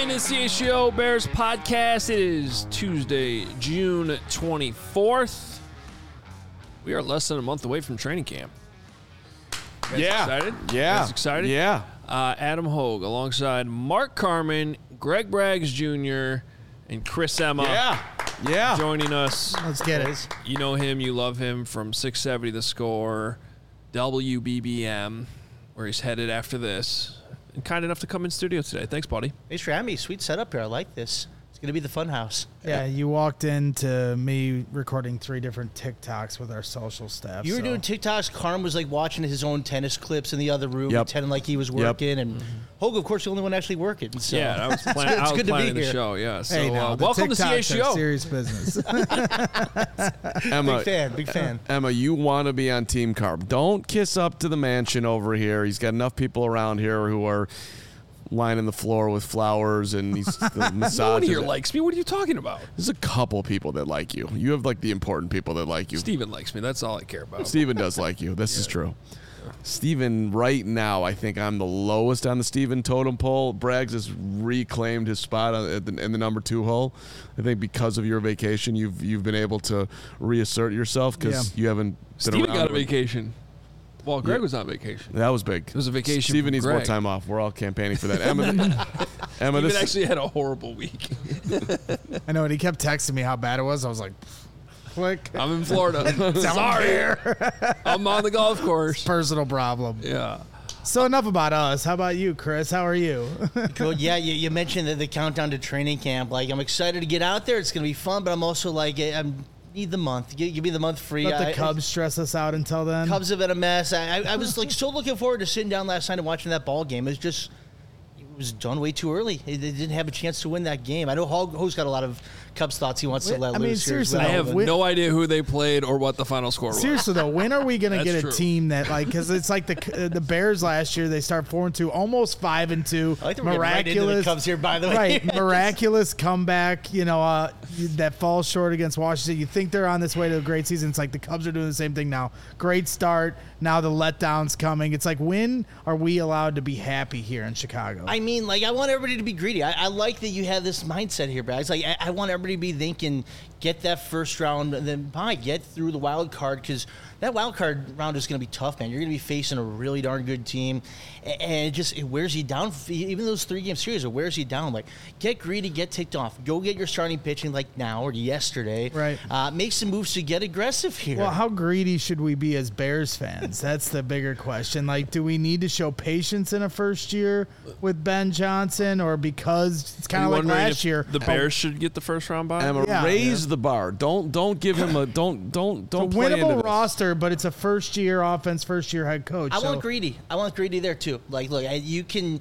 listening to CHGO Bears podcast. It is Tuesday, June 24th. We are less than a month away from training camp. You guys excited? Yeah. You guys excited? Yeah. Adam Hogue alongside Mark Carman, Greg Braggs Jr., and Chris Emma. Yeah. Joining us. Let's get it. You know him, you love him from 670 The Score, WBBM, where he's headed after this. And kind enough to come in studio today. Thanks, buddy. Thanks for having me. Sweet setup here. I like this. It's going to be the fun house. Yeah, you walked into me recording 3 different TikToks with our social staff. You were doing TikToks. Carm was like watching his own tennis clips in the other room, pretending like he was working. And Hogue, of course, the only one actually working. So. Yeah, I was, planning the show. Yeah, so hey, now, welcome to CHGO. Serious business. Emma, big fan. Emma, you want to be on Team Carb. Don't kiss up to the mansion over here. He's got enough people around here who are lining the floor with flowers and he's massaging. No one here likes me. What are you talking about? There's a couple people that like you. You have like the important people that like you. Steven likes me. That's all I care about. Steven does like you. This is true. Steven, right now, I think I'm the lowest on the Steven totem pole. Braggs has reclaimed his spot in the number 2 hole. I think because of your vacation, you've been able to reassert yourself because you haven't been Steven around. got a vacation. Well, Greg was on vacation. That was big. It was a vacation. Steven needs Greg. more time off. We're all campaigning for that. Emma, Steven actually had a horrible week. I know, and he kept texting me how bad it was. I was like, click. I'm in Florida. Sorry. I'm on the golf course. Personal problem. Yeah. So enough about us. How about you, Chris? How are you? Good. Yeah, you mentioned the countdown to training camp. Like, I'm excited to get out there. It's going to be fun, but I'm also like, need the month. Give me the month free. Let the Cubs stress us out until then. Cubs have been a mess. I was like so looking forward to sitting down last night and watching that ball game. It was done way too early. They didn't have a chance to win that game. I know Ho's got a lot of Cubs thoughts he wants to let loose. Seriously, I have no idea who they played or what the final score was. Seriously though, when are we going to get a true. team that because it's like the Bears last year? They start 4-2, almost 5-2. I think we're right into the Cubs here, by the way. Right, miraculous comeback. That falls short against Washington. You think they're on this way to a great season. It's like the Cubs are doing the same thing now. Great start. Now the letdown's coming. It's like, when are we allowed to be happy here in Chicago? I mean, like, I want everybody to be greedy. I like that you have this mindset here, Brad. It's like, I want everybody to be thinking, get that first round, and then get through the wild card, because that wild card round is going to be tough, man. You're going to be facing a really darn good team, and it wears you down. Even those 3-game series, it wears you down. Like, get greedy, get ticked off. Go get your starting pitching like now or yesterday. Right. Make some moves to get aggressive here. Well, how greedy should we be as Bears fans? That's the bigger question. Like, do we need to show patience in a first year with Ben Johnson, or because it's kind of like last year, the Bears should get the first round bye? Emma, raise the bar. Don't give him a don't play winnable into this. roster, but it's a first year offense, first year head coach. I want greedy. I want greedy there too. Like, look, you can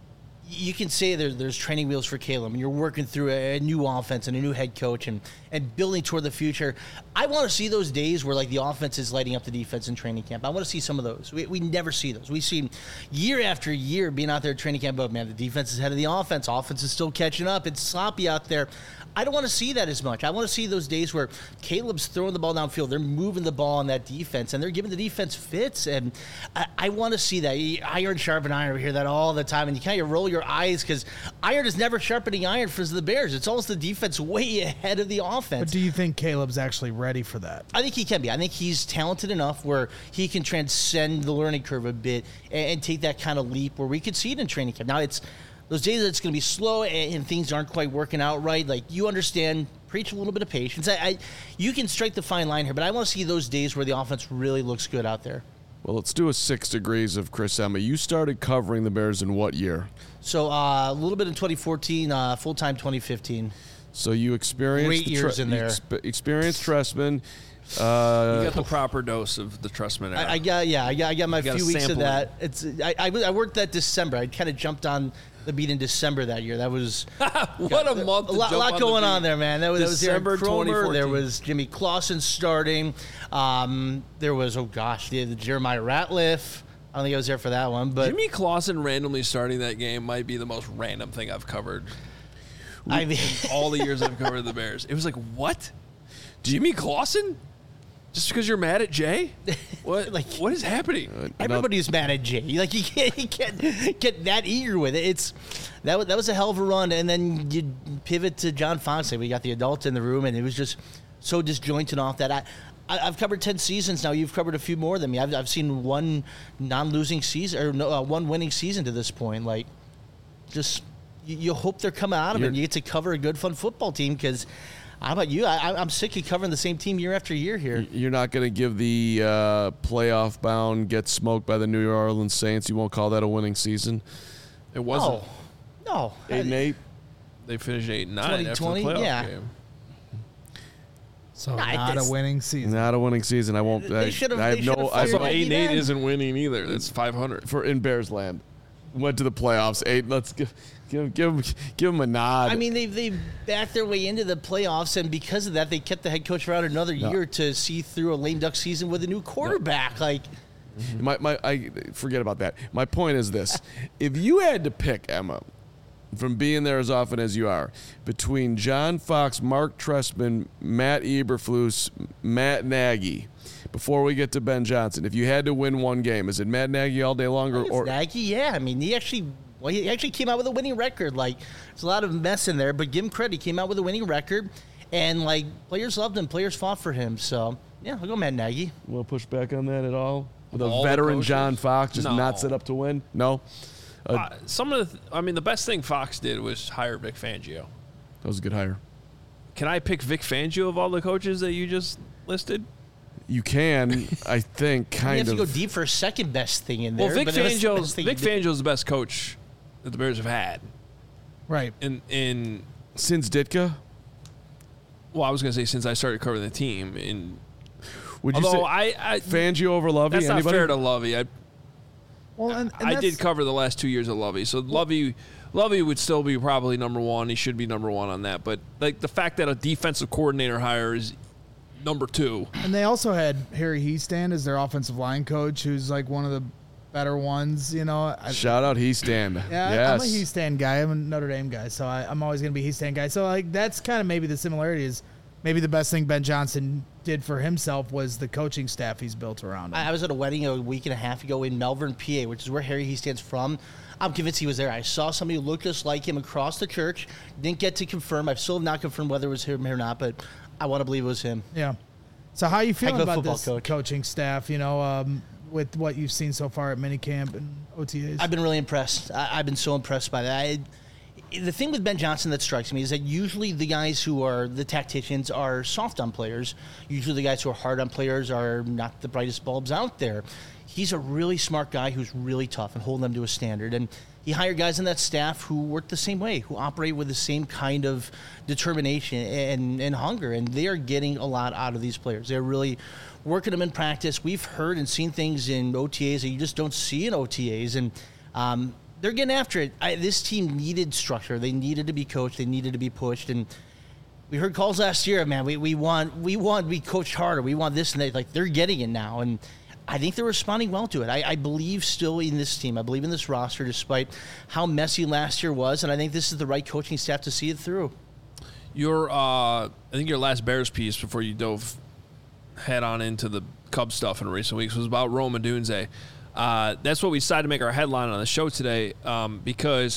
say there's training wheels for Caleb, and you're working through a new offense and a new head coach and building toward the future. I want to see those days where, like, the offense is lighting up the defense in training camp. I want to see some of those. We never see those. We see year after year being out there at training camp, but, man, the defense is ahead of the offense. Offense is still catching up. It's sloppy out there. I don't want to see that as much. I want to see those days where Caleb's throwing the ball downfield, they're moving the ball on that defense, and they're giving the defense fits. And I want to see that. Iron sharpen iron. We hear that all the time, and you kind of roll your eyes because iron is never sharpening iron for the Bears. It's almost the defense way ahead of the offense. But do you think Caleb's actually ready for that? I think he can be. I think he's talented enough where he can transcend the learning curve a bit and take that kind of leap where we could see it in training camp. Now, it's those days that it's going to be slow and things aren't quite working out right. Like, you understand, preach a little bit of patience. You can strike the fine line here, but I want to see those days where the offense really looks good out there. Well, let's do a 6 degrees of Chris Emma. You started covering the Bears in what year? So a little bit in 2014, full-time 2015. So you experienced great years in there. Experienced Trestman. You got the proper dose of the Trestman era. I got my few weeks of that. I worked that December. I kind of jumped on the beat in December that year. That was what a month. A lot going on there, man. That was December 2014. There was Jimmy Clausen starting. There was the Jeremiah Ratliff. I don't think I was there for that one, but Jimmy Clausen randomly starting that game might be the most random thing I've covered. I mean, all the years I've covered the Bears, it was like, what? Jimmy Clausen? Just because you're mad at Jay? What? What is happening? Everybody's mad at Jay. Like you can't get that eager with it. That was a hell of a run, and then you pivot to John Fox. We got the adult in the room, and it was just so disjointed off that. I've covered 10 seasons now. You've covered a few more than me. I've seen one non-losing season or one winning season to this point. Like, just you hope they're coming out of it. And you get to cover a good, fun football team because. How about you? I'm sick of covering the same team year after year here. You're not going to give the playoff bound get smoked by the New Orleans Saints. You won't call that a winning season. It wasn't. No. 8-8. They finished 8-9 after the 2020, playoff yeah. game. So not a winning season. Not a winning season. I won't. They should've- I they have no. should've I have Also, no 8-8 then. isn't winning either. That's 500. for in Bears land. Went to the playoffs. 8. Let's give them a nod. I mean, they backed their way into the playoffs, and because of that, they kept the head coach around another year to see through a lame duck season with a new quarterback. Like, I forget about that. My point is this: if you had to pick, Emma, from being there as often as you are, between John Fox, Mark Trestman, Matt Eberflus, Matt Nagy, before we get to Ben Johnson, if you had to win one game, is it Matt Nagy all day long or Nagy? Yeah, I mean, he actually came out with a winning record. Like, there's a lot of mess in there, but give him credit. He came out with a winning record, and like players loved him, players fought for him. So yeah, I'll go Matt Nagy. will push back on that at all? With a All the veteran coaches? John Fox just No. not set up to win? No, Some of the best thing Fox did was hire Vic Fangio. that was a good hire. Can I pick Vic Fangio of all the coaches that you just listed? You can, I think, You kind have to of. go deep for a second best thing in there. Well, Vic but it was the best Fangio's thing Vic he did. Fangio's the best coach that the Bears have had. Right. In Since Ditka, well, I was gonna say since I started covering the team. would you Although say I Fangio over Lovey? that's not Anybody? fair to Lovey. Well, and I did that's- cover the last 2 years of Lovey, so Lovey would still be probably number one. He should be number one on that. But like the fact that a defensive coordinator hire is number two. And they also had Harry Heastand as their offensive line coach, who's like one of the better ones. You know, Shout out Heastand. yeah, Yes. I'm a Heastand guy. I'm a Notre Dame guy, so I'm always going to be a Heastand guy. So like that's kind of maybe the similarity is maybe the best thing Ben Johnson did for himself was the coaching staff he's built around him. I was at a wedding a week and a half ago in Melbourne, PA, which is where Harry Heastand's from. I'm convinced he was there. I saw somebody who looked just like him across the church. Didn't get to confirm. I've still not confirmed whether it was him or not, but I want to believe it was him. Yeah. So how are you feeling Heck of a about football this coach. coaching staff? You know, with what you've seen so far at minicamp and OTAs. I've been really impressed. I've been so impressed by that. The thing with Ben Johnson that strikes me is that usually the guys who are the tacticians are soft on players. Usually the guys who are hard on players are not the brightest bulbs out there. He's a really smart guy who's really tough and holding them to a standard. And he hired guys on that staff who work the same way, who operate with the same kind of determination and hunger. And they are getting a lot out of these players. They're really working them in practice. We've heard and seen things in OTAs that you just don't see in OTAs. And they're getting after it. This team needed structure. They needed to be coached. They needed to be pushed. And we heard calls last year, man, we want to be coached harder. We want this and that. Like, they're getting it now. And I think they're responding well to it. I believe still in this team. I believe in this roster despite how messy last year was. And I think this is the right coaching staff to see it through. I think your last Bears piece before you dove head on into the Cubs stuff in recent weeks was about Rome Odunze. That's what we decided to make our headline on the show today because,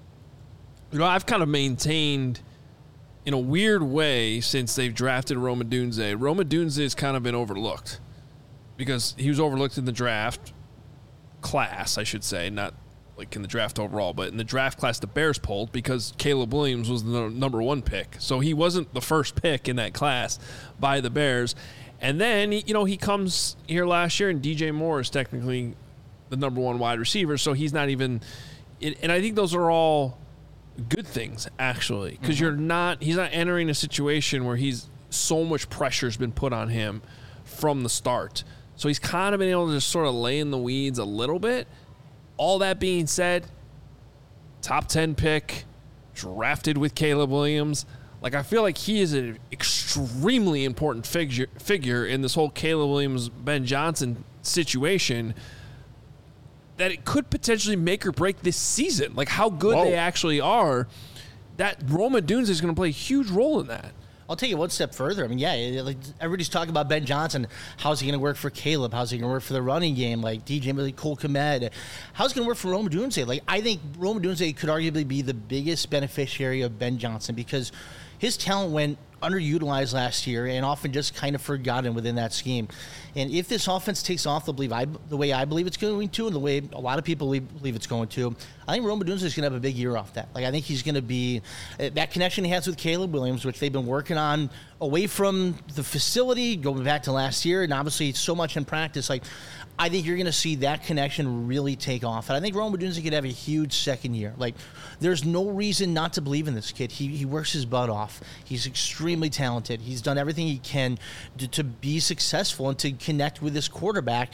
I've kind of maintained in a weird way since they've drafted Rome Odunze. Rome Odunze has kind of been overlooked because he was overlooked in the draft class, I should say, not like in the draft overall, but in the draft class the Bears pulled because Caleb Williams was the number one pick. So he wasn't the first pick in that class by the Bears. And then, he comes here last year and DJ Moore is technically the number one wide receiver. So he's not even, and I think those are all good things actually, because he's not entering a situation where so much pressure has been put on him from the start. So he's kind of been able to just sort of lay in the weeds a little bit. All that being said, top 10 pick, drafted with Caleb Williams. Like, I feel like he is an extremely important figure in this whole Caleb Williams, Ben Johnson situation that it could potentially make or break this season. Like, how good they actually are. That Rome Odunze is going to play a huge role in that. I'll take it one step further. I mean, yeah, like everybody's talking about Ben Johnson. How's he going to work for Caleb? How's he going to work for the running game? Like DJ Cole Kmet. How's it going to work for Rome Odunze? Like, I think Rome Odunze could arguably be the biggest beneficiary of Ben Johnson because his talent went underutilized last year and often just kind of forgotten within that scheme. And if this offense takes off the way I believe it's going to, and the way a lot of people believe it's going to, I think Rome Odunze is going to have a big year off that. Like, I think he's going to be that connection he has with Caleb Williams, which they've been working on away from the facility, going back to last year, and obviously so much in practice. Like, I think you're going to see that connection really take off. And I think Rome Odunze could have a huge second year. Like, there's no reason not to believe in this kid. He works his butt off. He's extremely talented. He's done everything he can to be successful and to connect with this quarterback.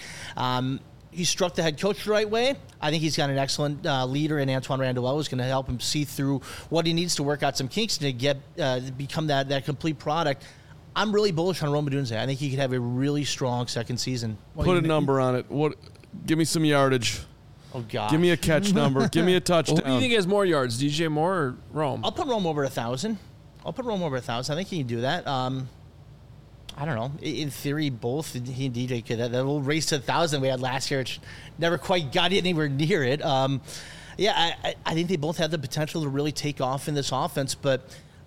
He struck the head coach the right way. I think he's got an excellent leader in Antoine Randall, who's going to help him see through what he needs to work out some kinks to get become that complete product. I'm really bullish on Rome Odunze. I think he could have a really strong second season. Put a number on it. Give me some yardage. Oh, God. Give me a catch number. Give me a touchdown. Who do you think has more yards, DJ Moore or Rome? I'll put Rome over 1,000. I think he can do that. I don't know. In theory, both he and DJ could. That little race to 1,000 we had last year, which never quite got anywhere near it. I think they both have the potential to really take off in this offense, but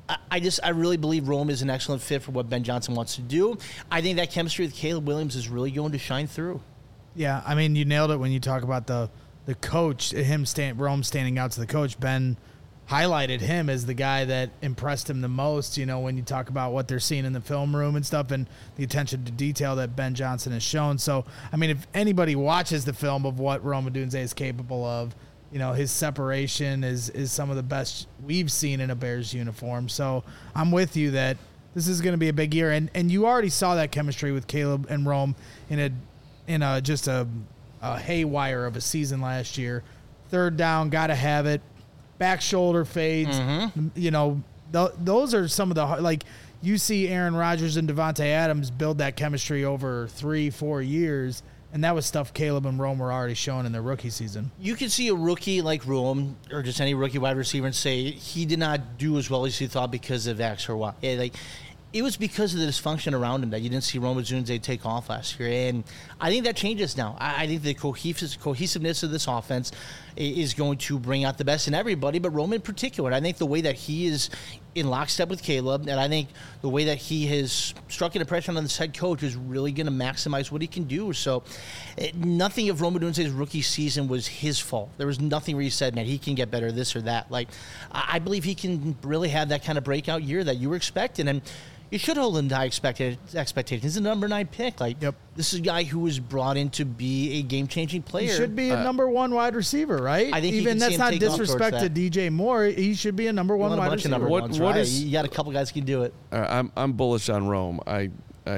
I really believe Rome is an excellent fit for what Ben Johnson wants to do. I think that chemistry with Caleb Williams is really going to shine through. Yeah, I mean, you nailed it when you talk about the coach, Rome standing out to the coach. Ben highlighted him as the guy that impressed him the most, when you talk about what they're seeing in the film room and stuff and the attention to detail that Ben Johnson has shown. So, I mean, if anybody watches the film of what Rome Odunze is capable of, his separation is some of the best we've seen in a Bears uniform. So I'm with you that this is going to be a big year. And you already saw that chemistry with Caleb and Rome in just a haywire of a season last year. Third down, got to have it. Back shoulder fades. Mm-hmm. Those are some of the, like, you see Aaron Rodgers and Devontae Adams build that chemistry over 3-4 years. And that was stuff Caleb and Rome were already showing in their rookie season. You can see a rookie like Rome or just any rookie wide receiver and say he did not do as well as he thought because of X or Y. It was because of the dysfunction around him that you didn't see Rome Odunze take off last year. And I think that changes now. I think the cohesiveness of this offense is going to bring out the best in everybody, but Rome in particular. I think the way that he is in lockstep with Caleb, and I think the way that he has struck an impression on this head coach is really going to maximize what he can do. So nothing of Rome Odunze's rookie season was his fault. There was nothing where he said, man, he can get better, this or that. Like, I believe he can really have that kind of breakout year that you were expecting. And you should hold him to high expectations. He's a number 9 pick. This is a guy who was brought in to be a game-changing player. He should be a number 1 wide receiver, right? I think even that's not disrespect to DJ Moore. He should be a number 1 wide receiver. Number ones, right? You got a couple guys who can do it. I'm bullish on Rome. I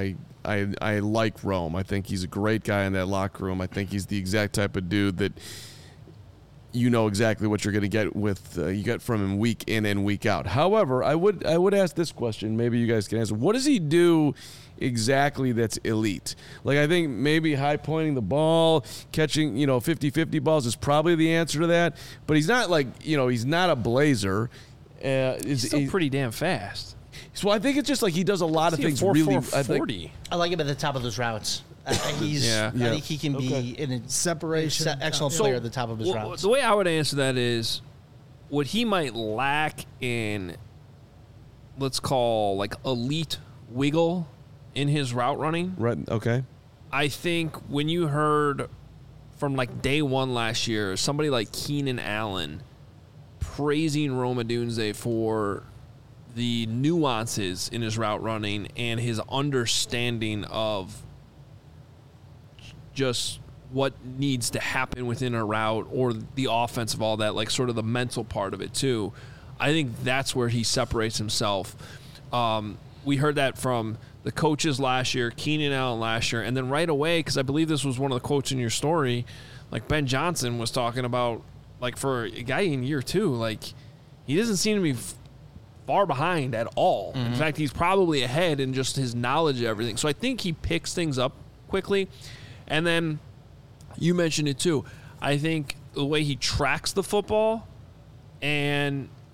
like Rome. I think he's a great guy in that locker room. I think he's the exact type of dude that you know exactly what you're going to get you get from him week in and week out. However, I would ask this question. Maybe you guys can answer. What does he do exactly that's elite? Like, I think maybe high pointing the ball, catching 50-50 balls is probably the answer to that. But he's not he's not a blazer. He's still pretty damn fast. So I think it's just like he does a lot of things really. 40. I like him at the top of those routes. I think he can be in a separation, excellent player at the top of his routes. The way I would answer that is, what he might lack in, let's call like elite wiggle in his route running. Right. Okay. I think when you heard from like day one last year, somebody like Keenan Allen praising Rome Odunze for the nuances in his route running and his understanding of just what needs to happen within a route or the offense of all that, like sort of the mental part of it too. I think that's where he separates himself. We heard that from the coaches last year, Keenan Allen last year, and then right away, because I believe this was one of the quotes in your story, like Ben Johnson was talking about, like for a guy in year 2, like he doesn't seem to be far behind at all. Mm-hmm. In fact, he's probably ahead in just his knowledge of everything. So I think he picks things up quickly. And then you mentioned it too. I think the way he tracks the football, and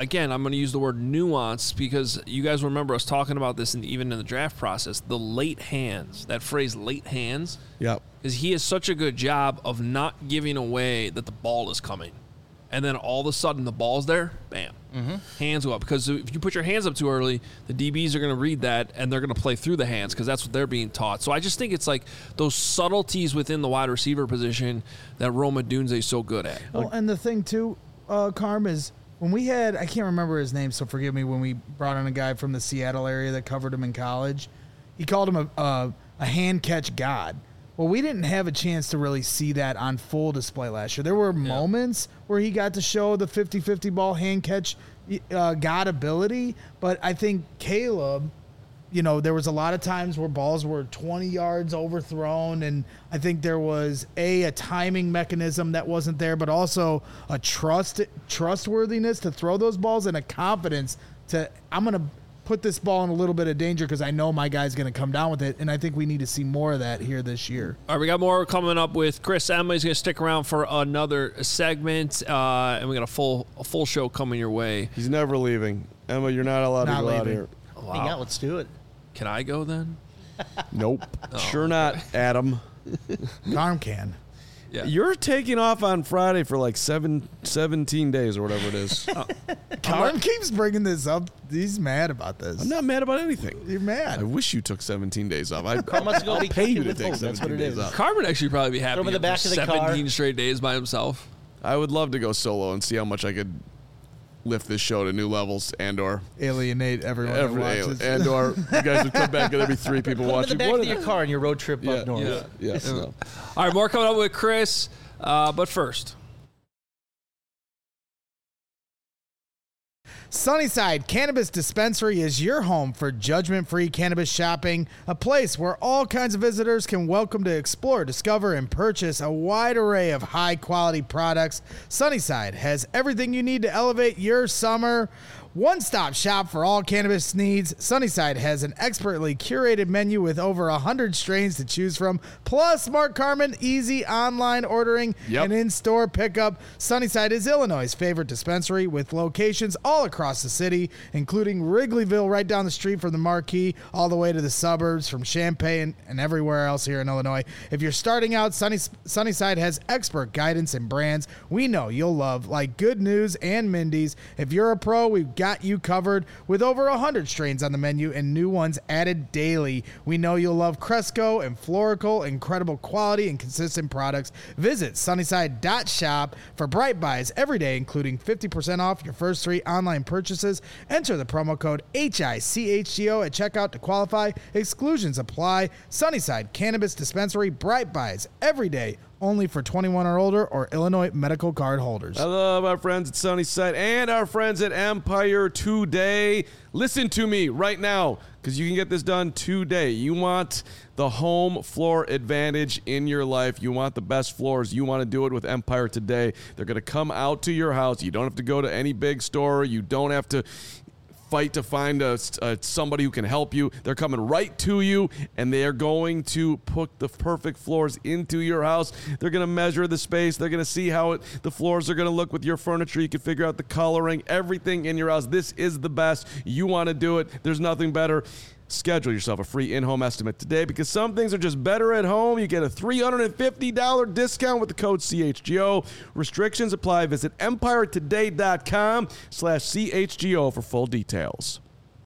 again, I'm going to use the word nuance because you guys remember us talking about this even in the draft process. The late hands, that phrase late hands, Yep. because he has such a good job of not giving away that the ball is coming. And then all of a sudden the ball's there, bam, hands go up. Because if you put your hands up too early, the DBs are going to read that and they're going to play through the hands because that's what they're being taught. So I just think it's like those subtleties within the wide receiver position that Rome Odunze is so good at. Well, and the thing too, Carm, is when we had, I can't remember his name, so forgive me, when we brought on a guy from the Seattle area that covered him in college, he called him a hand catch god. Well, we didn't have a chance to really see that on full display last year. There were moments where he got to show the 50-50 ball hand catch god ability, but I think Caleb, there was a lot of times where balls were 20 yards overthrown, and I think there was a timing mechanism that wasn't there, but also a trustworthiness to throw those balls and a confidence to, I'm going to put this ball in a little bit of danger because I know my guy's going to come down with it, and I think we need to see more of that here this year. All right, we got more coming up with Chris. Emily's going to stick around for another segment, and we got a full show coming your way. He's never leaving. Emma, you're not allowed to go out here. Hang out, let's do it. Can I go then? Nope. Sure not, Adam. Carm can. Yeah. You're taking off on Friday for like 17 days or whatever it is. Carm keeps bringing this up. He's mad about this. I'm not mad about anything. You're mad. I wish you took 17 days off. Carm wants to go I'll be pay you to with take hope. That's 17 what it days is. off. Carmen actually probably be happy Throw him in the back for of the 17 car. straight days by himself. I would love to go solo and see how much I could lift this show to new levels and/or Alienate everyone that watches. and/or you guys would come back and there'd be 3 people Put him in watching. the back What of your car on your road trip up north. Yes. No. All right, more coming up with Chris, but first. Sunnyside Cannabis Dispensary is your home for judgment-free cannabis shopping, a place where all kinds of visitors can welcome to explore, discover, and purchase a wide array of high-quality products. Sunnyside has everything you need to elevate your summer. One-stop shop for all cannabis needs. Sunnyside has an expertly curated menu with over 100 strains to choose from, plus Mark Carmen, easy online ordering and in-store pickup. Sunnyside is Illinois' favorite dispensary with locations all across the city, including Wrigleyville right down the street from the Marquee, all the way to the suburbs from Champaign and everywhere else here in Illinois. If you're starting out, Sunnyside has expert guidance and brands we know you'll love, like Good News and Mindy's. If you're a pro, we've got you covered with over 100 strains on the menu and new ones added daily. We know you'll love Cresco and Florical, incredible quality and consistent products. Visit sunnyside.shop for Bright Buys every day, including 50% off your first 3 online purchases. Enter the promo code HICHGO at checkout to qualify. Exclusions apply. Sunnyside Cannabis Dispensary, Bright Buys every day, only for 21 or older or Illinois medical card holders. I love our friends at Sunnyside and our friends at Empire Today. Listen to me right now, because you can get this done today. You want the home floor advantage in your life. You want the best floors. You want to do it with Empire Today. They're going to come out to your house. You don't have to go to any big store. You don't have to fight to find somebody who can help you. They're coming right to you, and they are going to put the perfect floors into your house. They're going to measure the space. They're going to see how the floors are going to look with your furniture. You can figure out the coloring, everything in your house. This is the best. You want to do it. There's nothing better. Schedule yourself a free in-home estimate today, because some things are just better at home. You get a $350 discount with the code CHGO. Restrictions apply. Visit EmpireToday.com/CHGO for full details.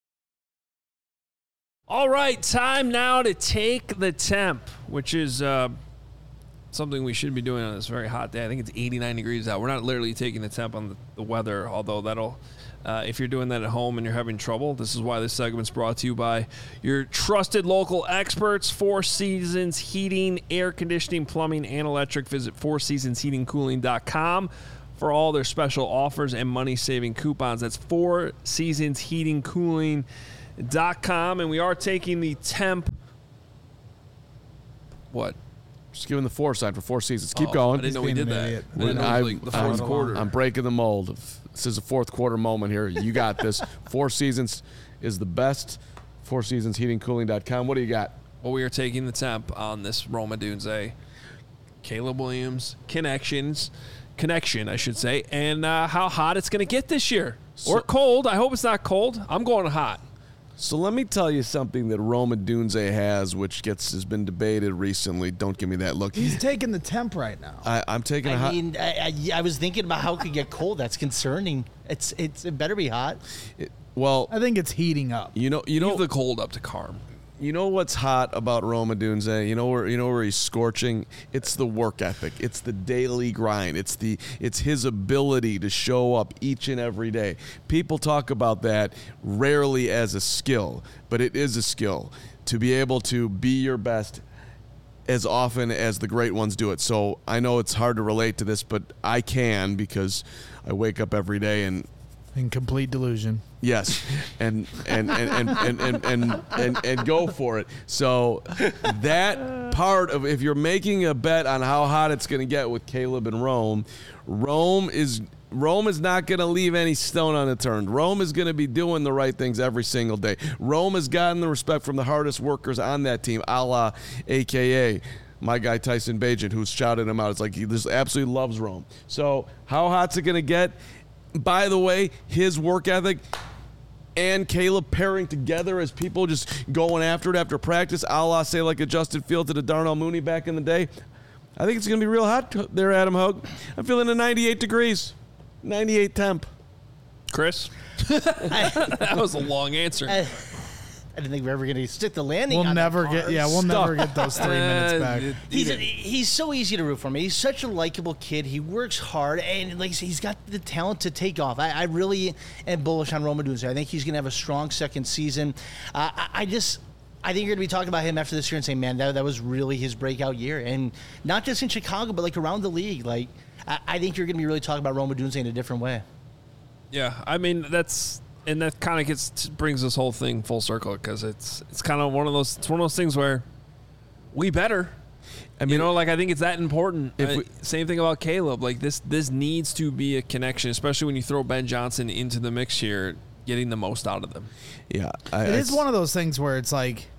All right, time now to take the temp, which is something we should be doing on this very hot day. I think it's 89 degrees out. We're not literally taking the temp on the weather, although that'll... if you're doing that at home and you're having trouble, this is why this segment's brought to you by your trusted local experts, Four Seasons Heating, Air Conditioning, Plumbing, and Electric. Visit fourseasonsheatingcooling.com for all their special offers and money-saving coupons. That's fourseasonsheatingcooling.com. And we are taking the temp. What? Just giving the 4 sign for Four Seasons. Keep going. I didn't know we did that. Idiot. I didn't know it was like the fourth quarter. I'm breaking the mold. This is a fourth quarter moment here. You got this. Four Seasons is the best. fourseasonsheatingcooling.com. What do you got? Well, we are taking the temp on this Rome Odunze, Caleb Williams connection, I should say, and how hot it's going to get this year. Or cold. I hope it's not cold. I'm going hot. So let me tell you something that Rome Odunze has, which has been debated recently. Don't give me that look. He's taking the temp right now. I'm taking a hot. I was thinking about how it could get cold. That's concerning. It better be hot. Well, I think it's heating up. you know, Leave the cold up to Carm. You know what's hot about Rome Odunze? You know where he's scorching? It's the work ethic. It's the daily grind. It's his ability to show up each and every day. People talk about that rarely as a skill, but it is a skill to be able to be your best as often as the great ones do it. So I know it's hard to relate to this, but I can because I wake up every day and In complete delusion. yes, and go for it. So that part of, if you're making a bet on how hot it's going to get with Caleb and Rome is not going to leave any stone unturned. Rome is going to be doing the right things every single day. Rome has gotten the respect from the hardest workers on that team, a la AKA my guy Tyson Bagent, who's shouted him out. It's like he just absolutely loves Rome. So how hot's it going to get? By the way, his work ethic and Caleb pairing together as people just going after it after practice, a la, say, like a Justin Fields to a Darnell Mooney back in the day. I think it's going to be real hot there, Adam Hogue. I'm feeling 98 degrees, 98 temp. Chris? That was a long answer. I didn't think we were ever going to stick the landing. We'll on never that get. card. Yeah, we'll never get those 3 minutes back. He's so easy to root for. He's such a likable kid. He works hard, and like I said, he's got the talent to take off. I really am bullish on Rome Odunze. I think he's going to have a strong second season. I think you're going to be talking about him after this year and saying, man, that was really his breakout year. And not just in Chicago, but like around the league. Like, I think you're going to be really talking about Rome Odunze in a different way. Yeah, I mean, and that kind of brings this whole thing full circle because it's kind of one of those things where we better. I mean, I think it's that important. Same thing about Caleb. Like this needs to be a connection, especially when you throw Ben Johnson into the mix here, getting the most out of them. Yeah, it is one of those things where it's like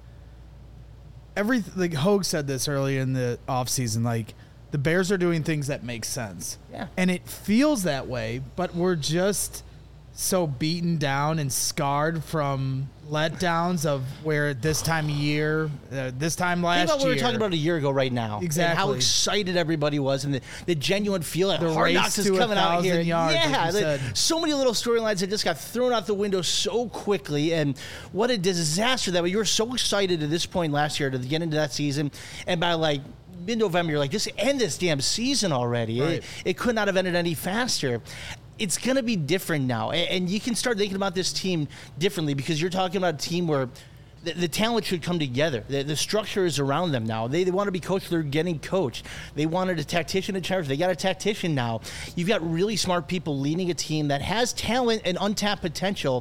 like Hogue said this early in the offseason, like the Bears are doing things that make sense. Yeah. And it feels that way, but we're just so beaten down and scarred from letdowns of where this time of year, this time last year. Think about what we were talking about a year ago right now. Exactly. And how excited everybody was and the genuine feel that The Hard race Knocks is to coming out here. 1,000 yards, yeah, like you said. so many little storylines that just got thrown out the window so quickly, and what a disaster that was. You were so excited at this point last year to get into that season, and by like mid-November, you're like, just end this damn season already. Right. It could not have ended any faster. It's going to be different now. And you can start thinking about this team differently because you're talking about a team where the talent should come together. The structure is around them now. They want to be coached. They're getting coached. They wanted a tactician in charge. They got a tactician now. You've got really smart people leading a team that has talent and untapped potential.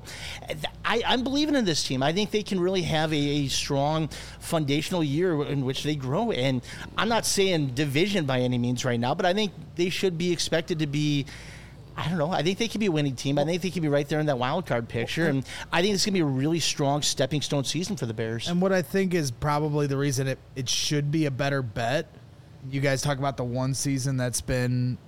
I'm believing in this team. I think they can really have a strong foundational year in which they grow. And I'm not saying division by any means right now, but I think they should be expected to be, I don't know. I think they could be a winning team. I think they could be right there in that wild card picture. And I think it's going to be a really strong stepping stone season for the Bears. And what I think is probably the reason it should be a better bet. You guys talk about the one season that's been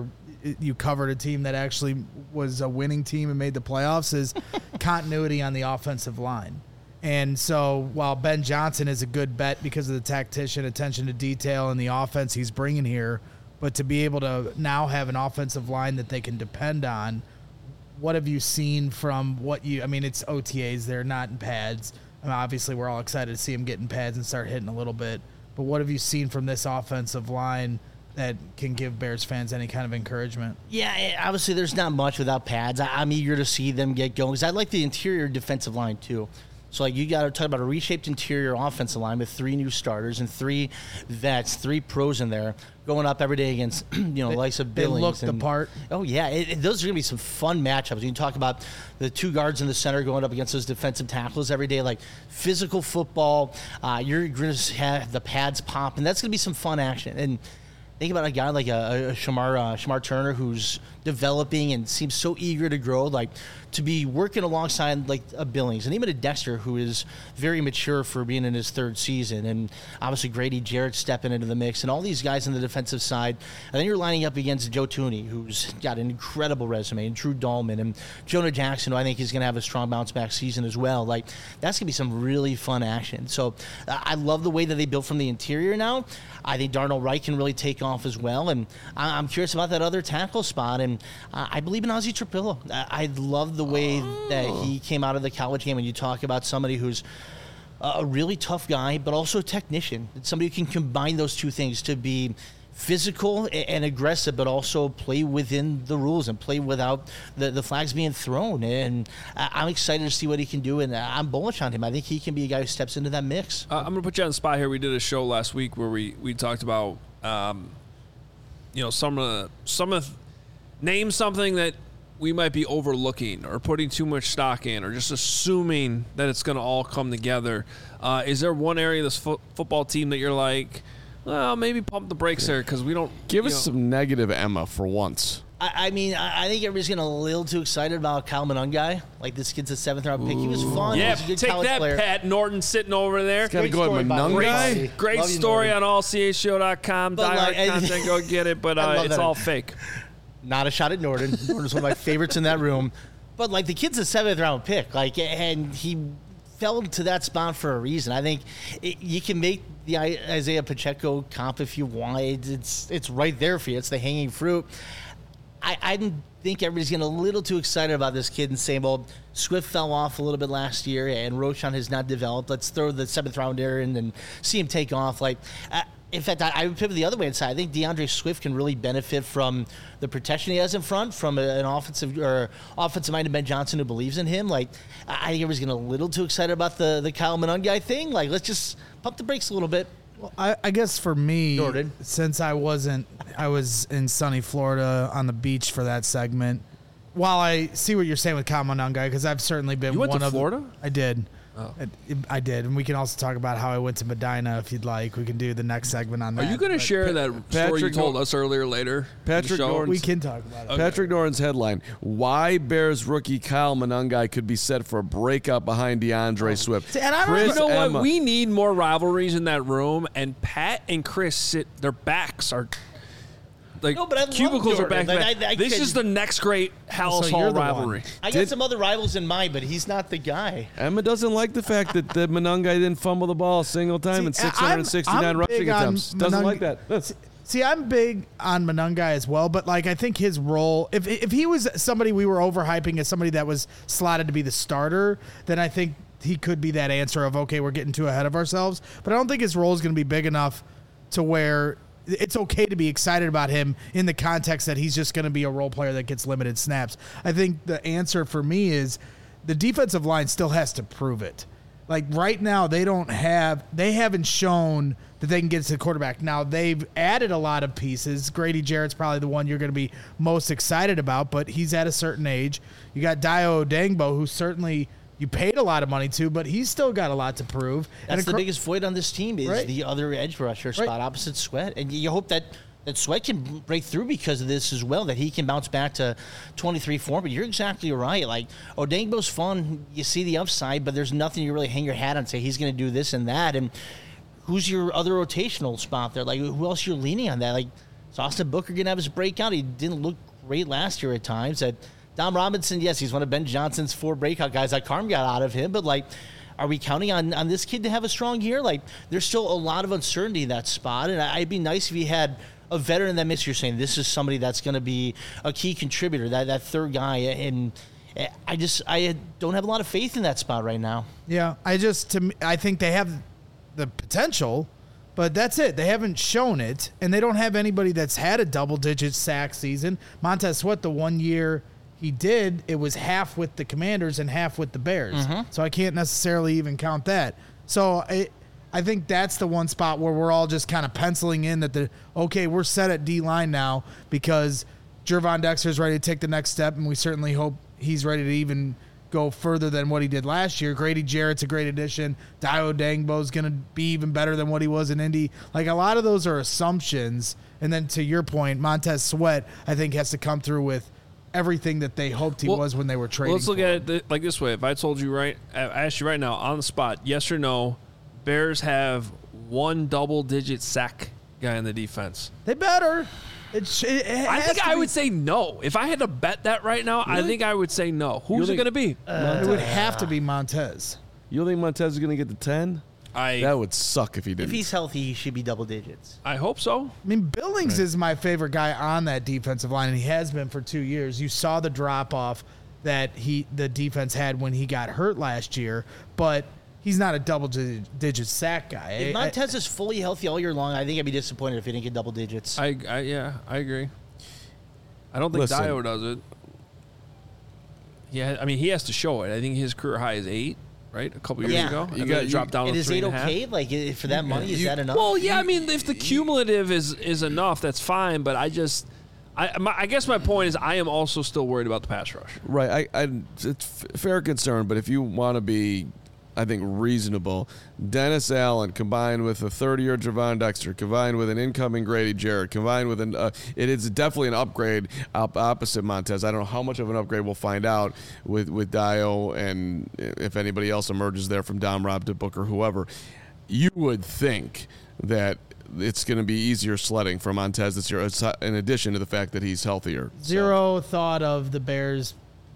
you covered a team that actually was a winning team and made the playoffs is continuity on the offensive line. And so while Ben Johnson is a good bet because of the tactician, attention to detail, and the offense he's bringing here, but to be able to now have an offensive line that they can depend on, what have you seen from it's OTAs, they're not in pads. I mean, obviously, we're all excited to see them get in pads and start hitting a little bit. But what have you seen from this offensive line that can give Bears fans any kind of encouragement? Yeah, obviously, there's not much without pads. I'm eager to see them get going because I like the interior defensive line, too. So, like, you got to talk about a reshaped interior offensive line with 3 new starters and 3 vets, 3 pros in there, going up every day against, likes of Billings. They look the part. Oh, yeah. Those are going to be some fun matchups. You can talk about the 2 guards in the center going up against those defensive tackles every day, like physical football. You're going to have the pads pop, and that's going to be some fun action. And think about a guy like a Shamar Turner who's developing and seems so eager to grow. Like to be working alongside like a Billings and even a Dexter, who is very mature for being in his third season, and obviously Grady Jarrett stepping into the mix, and all these guys on the defensive side, and then you're lining up against Joe Thuney, who's got an incredible resume, and Drew Dahlman, and Jonah Jackson, who I think is going to have a strong bounce back season as well. Like, that's going to be some really fun action. So I love the way that they built from the interior now. I think Darnell Wright can really take off as well, and I'm curious about that other tackle spot, and I believe in Ozzie Trapillo. I love the way that he came out of the college game, and you talk about somebody who's a really tough guy, but also a technician. It's somebody who can combine those two things to be physical and aggressive, but also play within the rules and play without the flags being thrown. And I'm excited to see what he can do, and I'm bullish on him. I think he can be a guy who steps into that mix. I'm going to put you on the spot here. We did a show last week where we talked about, name something that we might be overlooking or putting too much stock in or just assuming that it's going to all come together. Is there one area of this football team that you're like, well, maybe pump the brakes there because we don't... Give us some negative Emma for once. I mean, I think everybody's getting a little too excited about Kyle Monungai. Like, this kid's a 7th-round pick. He was fun. Yeah, he was a good take college that, player. Pat Norton sitting over there. Got to go at story, by the way. Monungai. Great Love you, story Norton. on allchshow.com. But, like, Diehard content, go get it. But I love it's that. all fake. Not a shot at Norton. Norton's one of my favorites in that room. But, like, the kid's a 7th-round pick. Like, and he fell into that spot for a reason. I think you can make the Isaiah Pacheco comp if you want. It's right there for you. It's the hanging fruit. I think everybody's getting a little too excited about this kid and saying, well, Swift fell off a little bit last year and Roschon has not developed. Let's throw the 7th-rounder in and see him take off. Like, in fact, I would pivot the other way inside. I think DeAndre Swift can really benefit from the protection he has in front, from an offensive-minded Ben Johnson who believes in him. Like, I think everybody's getting a little too excited about the Kyle Monungai thing. Like, let's just pump the brakes a little bit. Well, I guess for me, Jordan. since I was in sunny Florida on the beach for that segment. While I see what you're saying with Kyle Monungai, because I've certainly been You went one to of Florida? I did. Oh. I did, and we can also talk about how I went to Medina if you'd like. We can do the next segment on that. Are you going to but share that story you Patrick told us earlier later? in the Patrick show? Norton- We can talk about it. Okay. Patrick Norton's headline: Why Bears rookie Kyle Monungai could be set for a breakout behind DeAndre Swift. See, and I don't Chris You know Emma- what? We need more rivalries in that room, and Pat and Chris sit. Their backs are like No, but I love cubicles are back. Jordan. to Like, back. I This could- is the next great Hallis So Hall you're the rivalry. one. I got some other rivals in mind, but he's not the guy. Emma doesn't like the fact that Monungai didn't fumble the ball a single time in See, 669 I'm rushing big on attempts. Doesn't Monungai- like that. See, I'm big on Monungai as well, but like I think his role, if he was somebody we were overhyping as somebody that was slotted to be the starter, then I think he could be that answer of, okay, we're getting too ahead of ourselves. But I don't think his role is going to be big enough to where it's okay to be excited about him in the context that he's just going to be a role player that gets limited snaps. I think the answer for me is the defensive line still has to prove it. Like right now, they haven't shown that they can get to the quarterback. Now they've added a lot of pieces. Grady Jarrett's probably the one you're going to be most excited about, but he's at a certain age. You got Dio Odangbo, who certainly you paid a lot of money to, but he's still got a lot to prove. That's the biggest void on this team is Right. the other edge rusher spot opposite Sweat. And you hope that Sweat can break through because of this as well, that he can bounce back to 23 form. But you're exactly right. Like, Odangbo's fun. You see the upside, but there's nothing you really hang your hat on and say he's going to do this and that. And who's your other rotational spot there? Like, who else you're leaning on that? Like, is Austin Booker going to have his breakout? He didn't look great last year at times. Dom Robinson, yes, he's one of Ben Johnson's 4 breakout guys that Carm got out of him. But, like, are we counting on this kid to have a strong year? Like, there's still a lot of uncertainty in that spot. And it'd be nice if he had a veteran that makes you're saying this is somebody that's going to be a key contributor, that third guy. And I don't have a lot of faith in that spot right now. Yeah, I think they have the potential, but that's it. They haven't shown it, and they don't have anybody that's had a double-digit sack season. Montez Sweat, the 1 year he did, it was half with the Commanders and half with the Bears. So I can't necessarily even count that. So I think that's the one spot where we're all just kind of penciling in that we're set at D-line now because Gervon Dexter's ready to take the next step, and we certainly hope he's ready to even go further than what he did last year. Grady Jarrett's a great addition. Dio Dangbo's going to be even better than what he was in Indy. Like, a lot of those are assumptions. And then to your point, Montez Sweat, I think, has to come through with everything that they hoped he was when they were trading. Well, let's look for at him. it like this way. If I told you I asked you right now on the spot, yes or no, Bears have one double-digit sack guy in the defense. They better. I think I would say no. If I had to bet that right now, I think I would say no. Who's it going to be? It would have to be Montez. You think Montez is going to get the 10? That would suck if he didn't. If he's healthy, he should be double digits. I hope so. I mean, Billings is my favorite guy on that defensive line, and he has been for 2 years. You saw the drop-off that the defense had when he got hurt last year, but he's not a double-digit sack guy. If Montez is fully healthy all year long, I think I'd be disappointed if he didn't get double digits. I agree. I don't think Dio does it. Yeah, I mean, he has to show it. I think his career high is 8. Right, a couple years ago, you got dropped down. And to is 3.5. 8 okay? Like for that money, is that enough? Well, yeah. I mean, if the cumulative is enough, that's fine. But I guess my point is, I am also still worried about the pass rush. Right. It's fair concern, but if you want to be, I think, reasonable, Dennis Allen combined with a 30-year Javon Dexter, combined with an incoming Grady Jarrett, combined with it is definitely an upgrade opposite Montez. I don't know how much of an upgrade we'll find out with Dio and if anybody else emerges there from Dom Rob to Booker, whoever. You would think that it's going to be easier sledding for Montez this year, in addition to the fact that he's healthier. Zero thought of the Bears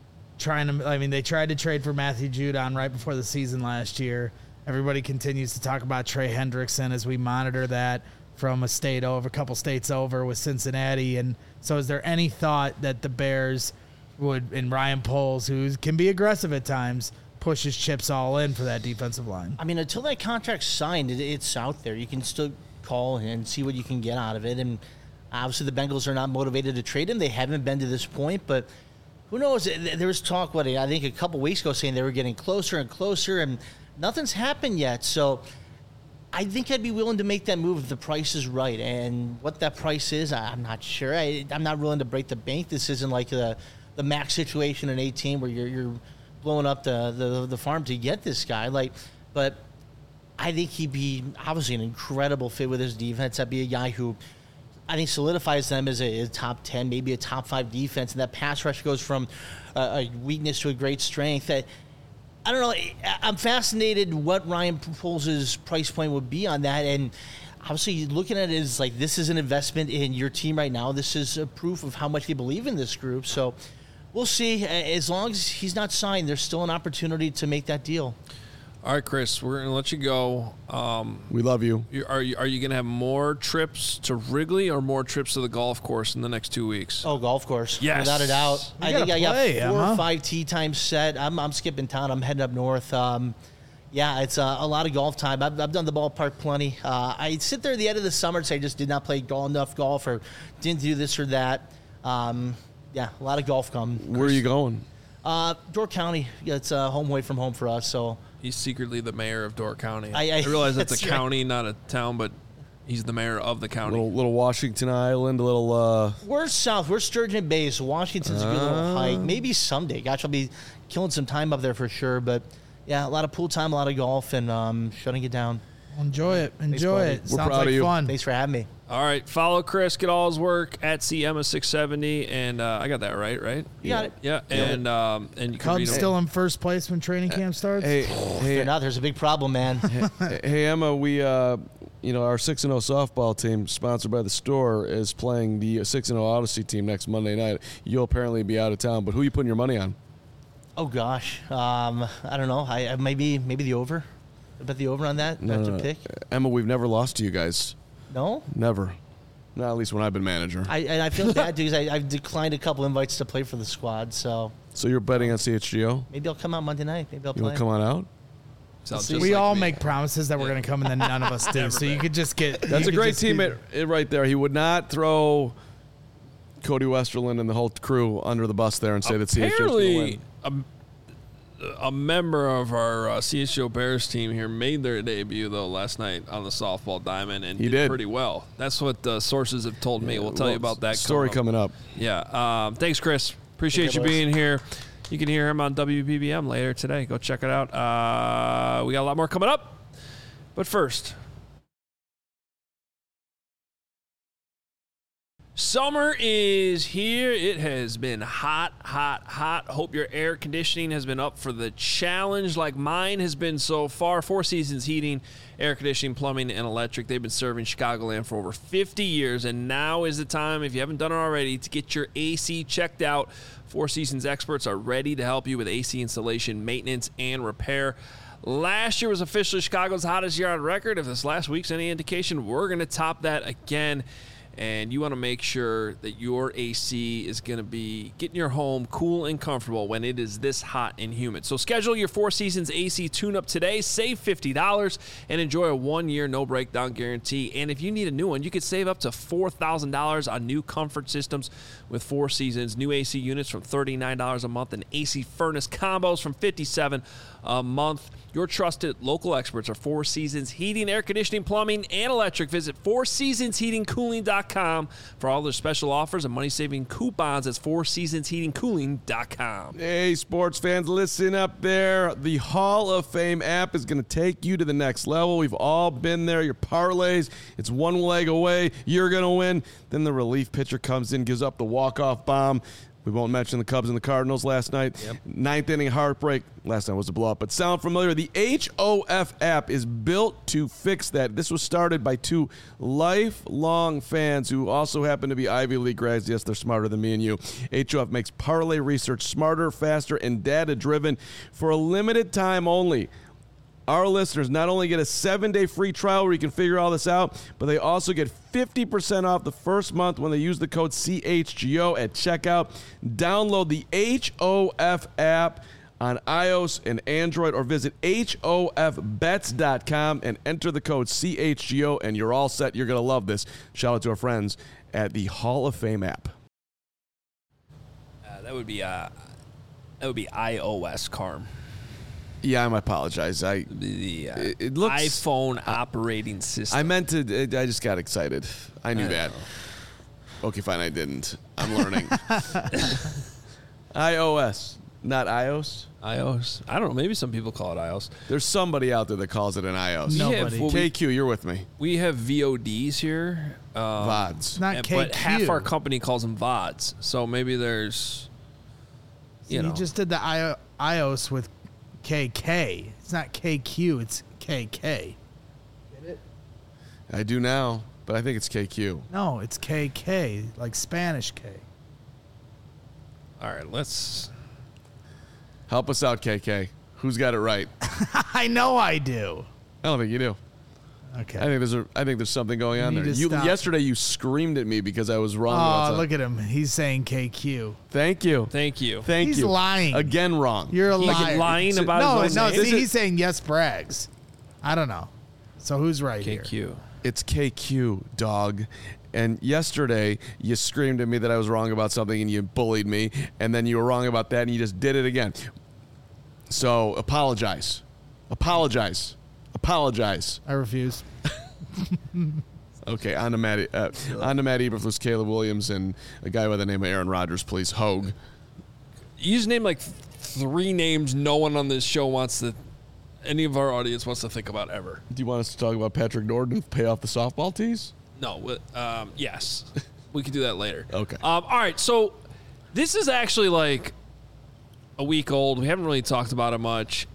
they tried to trade for Matthew Judon right before the season last year. Everybody continues to talk about Trey Hendrickson as we monitor that from a couple states over with Cincinnati. And so is there any thought that the Bears would, and Ryan Poles, who can be aggressive at times, push his chips all in for that defensive line? I mean, until that contract's signed, it's out there. You can still call and see what you can get out of it. And obviously the Bengals are not motivated to trade him. They haven't been to this point, but who knows? There was talk, I think a couple weeks ago, saying they were getting closer and closer, and nothing's happened yet. So I think I'd be willing to make that move if the price is right. And what that price is, I'm not sure. I'm not willing to break the bank. This isn't like the Max situation in 18 where you're blowing up the farm to get this guy. But I think he'd be obviously an incredible fit with his defense. That'd be a guy who I think solidifies them as a top 10, maybe a top 5 defense, and that pass rush goes from a weakness to a great strength. I don't know. I'm fascinated what Ryan Poles' price point would be on that, and obviously looking at it as like this is an investment in your team right now. This is a proof of how much they believe in this group. So we'll see. As long as he's not signed, there's still an opportunity to make that deal. All right, Chris, we're going to let you go. We love you. Are you going to have more trips to Wrigley or more trips to the golf course in the next 2 weeks? Oh, golf course. Yes. Without a doubt. I think I got 4 or 5 tee times set. I'm skipping town. I'm heading up north. It's a lot of golf time. I've done the ballpark plenty. I sit there at the end of the summer and say I just did not play enough golf or didn't do this or that. A lot of golf come. Where are you going? Door County. Yeah, it's home away from home for us. So he's secretly the mayor of Door County. I realize that's a that's county, not a town, but he's the mayor of the county. Little Washington Island, a little. We're south. We're Sturgeon Bay, so Washington's a good little hike. Maybe someday. Gosh, I'll be killing some time up there for sure. But yeah, a lot of pool time, a lot of golf, and shutting it down. Enjoy it. Enjoy it. We're Sounds proud like of you. fun. Thanks for having me. All right, follow Chris, get all his work at CMA670, and I got that right? You got it. Yeah, and you can read Cubs him. still in first place when training camp starts? They're not. There's a big problem, man. Hey Emma, we our 6-0 softball team, sponsored by the store, is playing the 6-0 Odyssey team next Monday night. You'll apparently be out of town, but who are you putting your money on? Oh gosh, I don't know. I maybe the over. I bet the over on that. No. Pick. Emma, we've never lost to you guys. No. Never. Not at least when I've been manager. I feel bad because I've declined a couple invites to play for the squad. So So you're betting on CHGO? maybe I'll come out Monday night. Maybe I'll You play. want to come on out? Sounds We just like all me. make promises that we're going to come and then none of us do. So you could just get. That's a great teammate right there. He would not throw Cody Westerland and the whole crew under the bus there and say that CHGO is going to Apparently, win. a member of our CHGO Bears team here made their debut, though, last night on the softball diamond and He did. pretty well. That's what sources have told me. We'll tell you about that story coming up. Yeah. Thanks, Chris. Appreciate you boys. being here. You can hear him on WBBM later today. Go check it out. We got a lot more coming up. But first, Summer is here. It has been hot, hot, hot. Hope your air conditioning has been up for the challenge like mine has been so far. Four Seasons Heating, Air Conditioning, Plumbing, and Electric. They've been serving Chicagoland for over 50 years, and now is the time, if you haven't done it already, to get your AC checked out. Four Seasons experts are ready to help you with AC installation, maintenance, and repair. Last year was officially Chicago's hottest year on record. If this last week's any indication, we're going to top that again. And you want to make sure that your AC is going to be getting your home cool and comfortable when it is this hot and humid. So schedule your Four Seasons AC tune-up today. Save $50 and enjoy a 1-year no-breakdown guarantee. And if you need a new one, you could save up to $4,000 on new comfort systems with Four Seasons. New AC units from $39 a month and AC furnace combos from $57 a month. Your trusted local experts are Four Seasons Heating, Air Conditioning, Plumbing, and Electric. Visit fourseasonsheatingcooling.com for all their special offers and money-saving coupons. That's fourseasonsheatingcooling.com. Hey, sports fans, listen up there. The Hall of Fame app is going to take you to the next level. We've all been there. Your parlays, it's one leg away. You're going to win. Then the relief pitcher comes in, gives up the walk-off bomb. We won't mention the Cubs and the Cardinals last night. Yep. Ninth inning heartbreak. Last night was a blowout, but sound familiar? The HOF app is built to fix that. This was started by two lifelong fans who also happen to be Ivy League grads. Yes, they're smarter than me and you. HOF makes parlay research smarter, faster, and data-driven for a limited time only. Our listeners not only get a 7-day free trial where you can figure all this out, but they also get 50% off the first month when they use the code CHGO at checkout. Download the HOF app on iOS and Android or visit HOFbets.com and enter the code CHGO and you're all set. You're going to love this. Shout out to our friends at the Hall of Fame app. That would be iOS, Carm. Yeah, I apologize. It looks iPhone operating system. I meant to. I just got excited. I knew that. Okay, fine. I didn't. I'm learning. iOS, not iOS. iOS. I don't know. Maybe some people call it iOS. There's somebody out there that calls it an iOS. Nobody. KQ, you're with me. We have VODs here. VODs. Not KQ. But half our company calls them VODs. So maybe there's, You just did the iOS with KK. It's not KQ, it's KK. Get it? I do now, but I think it's KQ. No, it's KK, like Spanish K. All right, let's Help us out, KK. Who's got it right? I know I do. I don't think you do. Okay. I think there's something going on You there. need to stop. Yesterday you screamed at me because I was wrong about something. Look at him. He's saying KQ. Thank you. thank you. Thank He's you. lying. Again wrong. You're a He's liar. lying about no, his own no. name. See, he's saying yes, Braggs. I don't know. So who's right here? KQ. It's KQ, dog. And yesterday, you screamed at me that I was wrong about something and you bullied me. And then you were wrong about that and you just did it again. So apologize. Apologize. Apologize. I refuse. Okay, on to Matt Eberflus, Caleb Williams, and a guy by the name of Aaron Rodgers, please. Hogue. You just named like 3 names no one on this show wants to, any of our audience wants to think about ever. Do you want us to talk about Patrick Norton pay off the softball tees? No, yes. We could do that later. Okay. All right, so this is actually like a week old. We haven't really talked about it much.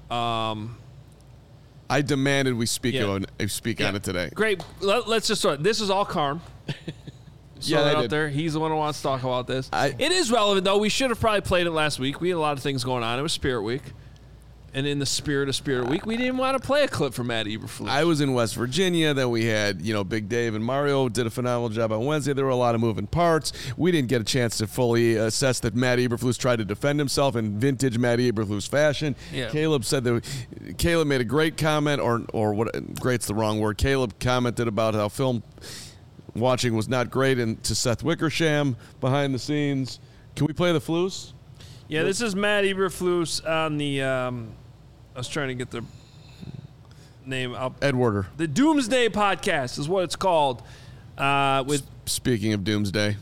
I demanded we speak Yeah. on it today. Great. Let's just start. This is all Carm. Yeah, that I out did. there. He's the one who wants to talk about this. I- It is relevant, though. We should have probably played it last week. We had a lot of things going on. It was Spirit Week. And in the spirit of Spirit Week, we didn't want to play a clip from Matt Eberflus. I was in West Virginia. Then we had, Big Dave and Mario did a phenomenal job on Wednesday. There were a lot of moving parts. We didn't get a chance to fully assess that Matt Eberflus tried to defend himself in vintage Matt Eberflus fashion. Yeah. Caleb made a great comment, or what? Great's the wrong word. Caleb commented about how film watching was not great, and to Seth Wickersham behind the scenes. Can we play the Flus? Yeah, this is Matt Eberflus on the. I was trying to get the name up. Edwarder. The Doomsday Podcast is what it's called. With Speaking of Doomsday.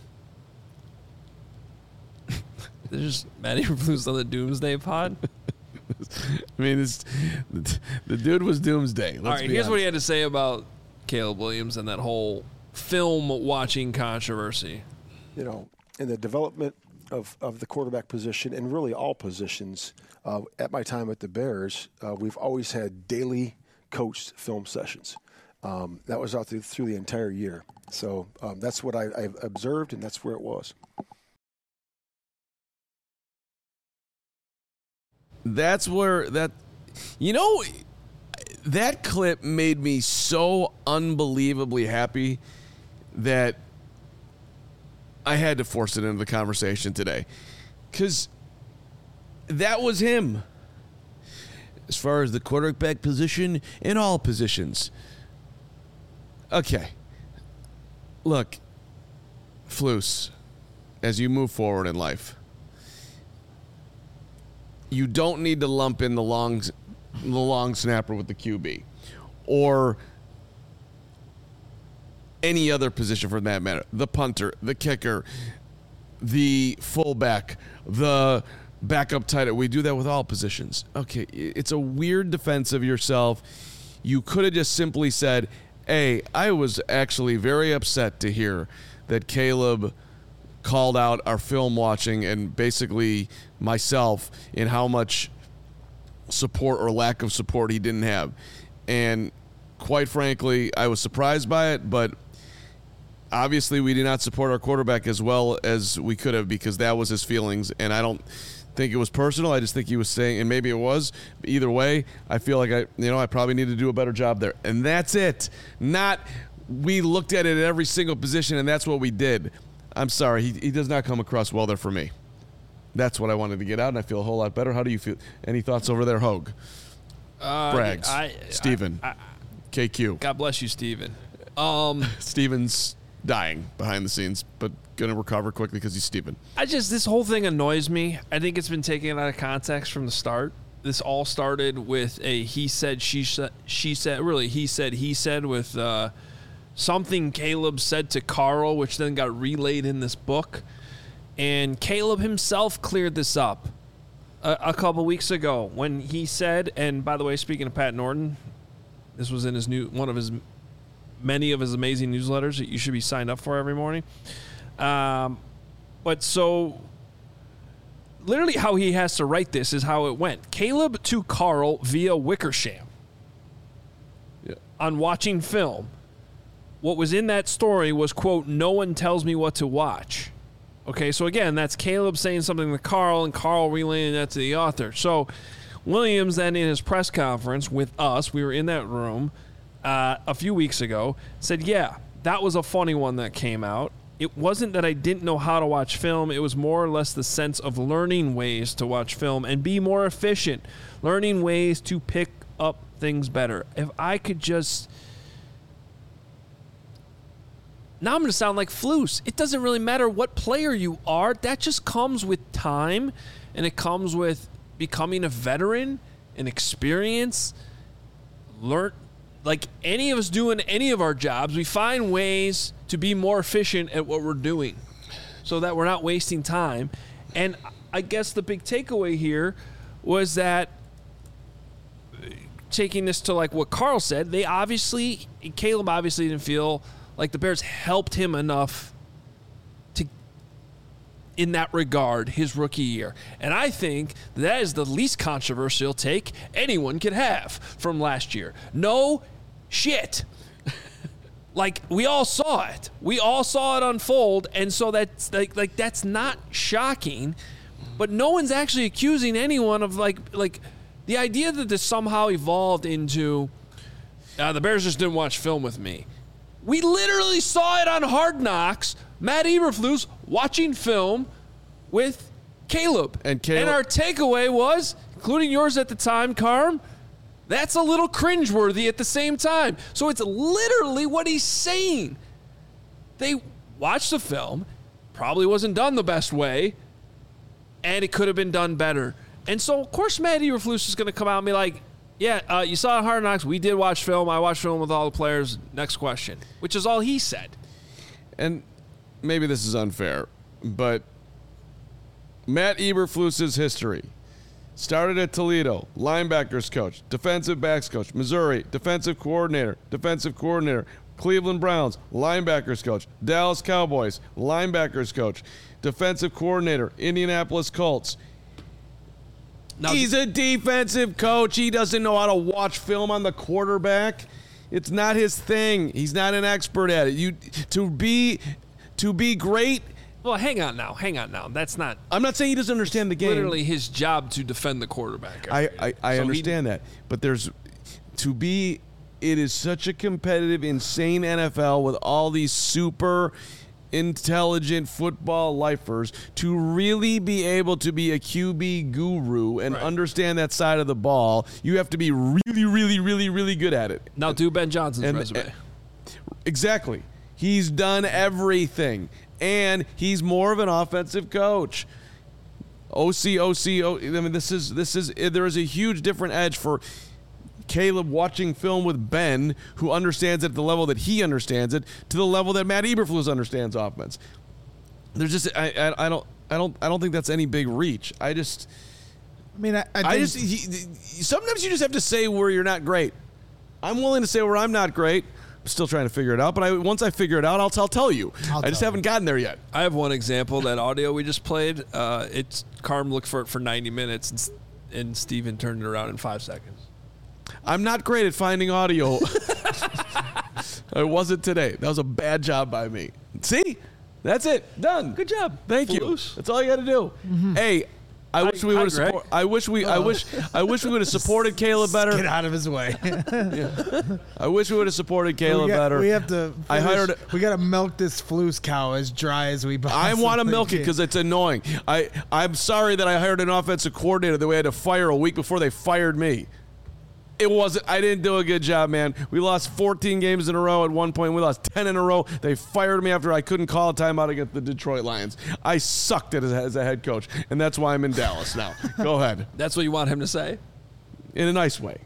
there's Matt Eberflus on the Doomsday Pod. I mean, the dude was Doomsday. All right, here's what he had to say about Caleb Williams and that whole film watching controversy. in the development of the quarterback position and really all positions. At my time at the Bears, we've always had daily coached film sessions. That was out through the entire year. So that's what I've observed, and that's where it was. That's where that clip made me so unbelievably happy that I had to force it into the conversation today, because that was him. As far as the quarterback position, in all positions. Okay. Look, Flus, as you move forward in life, you don't need to lump in the long snapper with the QB or any other position for that matter. The punter, the kicker, the fullback, the backup tight end. We do that with all positions. Okay, it's a weird defense of yourself. You could have just simply said, hey, I was actually very upset to hear that Caleb called out our film watching and basically myself in how much support or lack of support he didn't have. And quite frankly, I was surprised by it, but obviously we did not support our quarterback as well as we could have, because that was his feelings, and I don't think it was personal. I just think he was saying, and maybe it was. Either way, I feel like I probably need to do a better job there. And that's it. Not we looked at it at every single position and that's what we did. I'm sorry. He does not come across well there for me. That's what I wanted to get out, and I feel a whole lot better. How do you feel? Any thoughts over there, Hogue? Braggs. Steven. KQ. God bless you, Steven. Steven's dying behind the scenes, but going to recover quickly because he's Steven. This whole thing annoys me. I think it's been taken out of context from the start. This all started with a he said, she said, really he said with something Caleb said to Carl, which then got relayed in this book. And Caleb himself cleared this up a couple weeks ago when he said, and by the way, speaking of Pat Norton, this was in his many of his amazing newsletters that you should be signed up for every morning. But so literally how he has to write this is how it went. Caleb to Carl via Wickersham. Yeah. On watching film. What was in that story was, quote, no one tells me what to watch. Okay, so again, that's Caleb saying something to Carl and Carl relaying that to the author. So Williams then in his press conference with us, we were in that room a few weeks ago, said, yeah, that was a funny one that came out. It wasn't that I didn't know how to watch film. It was more or less the sense of learning ways to watch film and be more efficient, learning ways to pick up things better. If I could just... Now I'm going to sound like Flus. It doesn't really matter what player you are. That just comes with time, and it comes with becoming a veteran and experience. Like any of us doing any of our jobs, we find ways to be more efficient at what we're doing so that we're not wasting time. And I guess the big takeaway here was that, taking this to like what Carl said, Caleb obviously didn't feel like the Bears helped him enough in that regard his rookie year. And I think that is the least controversial take anyone could have from last year. No shit. Like, we all saw it. We all saw it unfold, and so that's like that's not shocking. But no one's actually accusing anyone of like the idea that this somehow evolved into the Bears just didn't watch film with me. We literally saw it on Hard Knocks. Matt Eberflus watching film with Caleb. And our takeaway was, including yours at the time, Carm, that's a little cringeworthy at the same time. So it's literally what he's saying. They watched the film, probably wasn't done the best way, and it could have been done better. And so, of course, Matt Eberflus is going to come out and be like, yeah, you saw Hard Knocks. We did watch film. I watched film with all the players. Next question, which is all he said. And maybe this is unfair, but Matt Eberflus's history started at Toledo, linebackers coach, defensive backs coach, Missouri, defensive coordinator, Cleveland Browns, linebackers coach. Dallas Cowboys, linebackers coach. Defensive coordinator, Indianapolis Colts. Now, He's a defensive coach. He doesn't know how to watch film on the quarterback. It's not his thing. He's not an expert at it. To be great. well, hang on now. That's not I'm not saying he doesn't understand the game. literally his job to defend the quarterback. I So understand that, but it is such a competitive, insane NFL with all these super intelligent football lifers. To really be able to be a QB guru and Right. understand that side of the ball, you have to be really, really, really, really good at it. Now do Ben Johnson's And- resume. Exactly. He's done everything, and he's more of an offensive coach. OC. I mean, this is. There is a huge different edge for Caleb watching film with Ben, who understands it at the level that he understands it, to the level that Matt Eberflus understands offense. I don't think that's any big reach. I think sometimes you just have to say where you're not great. I'm willing to say where I'm not great. I'm still trying to figure it out, but once I figure it out, I'll tell you. I just haven't gotten there yet. I have one example. That audio we just played. It's Carm looked for it for 90 minutes, and Steven turned it around in 5 seconds. I'm not great at finding audio. I wasn't today. That was a bad job by me. See? That's it. Done. Good job. Thank you. Flus. That's all you got to do. Hey, I wish we would have Greg. I wish we would have supported Caleb better. Get out of his way. I wish we would have supported Caleb better. We have to. I hired. We got to milk this Flus cow as dry as we I possibly want to milk it can. because it's annoying. I'm sorry that I hired an offensive coordinator that we had to fire a week before they fired me. It wasn't. I didn't do a good job, man. We lost 14 games in a row at one point. We lost 10 in a row. They fired me after I couldn't call a timeout against the Detroit Lions. I sucked at it as a head coach, and that's why I'm in Dallas now. Go ahead. That's what you want him to say? In a nice way.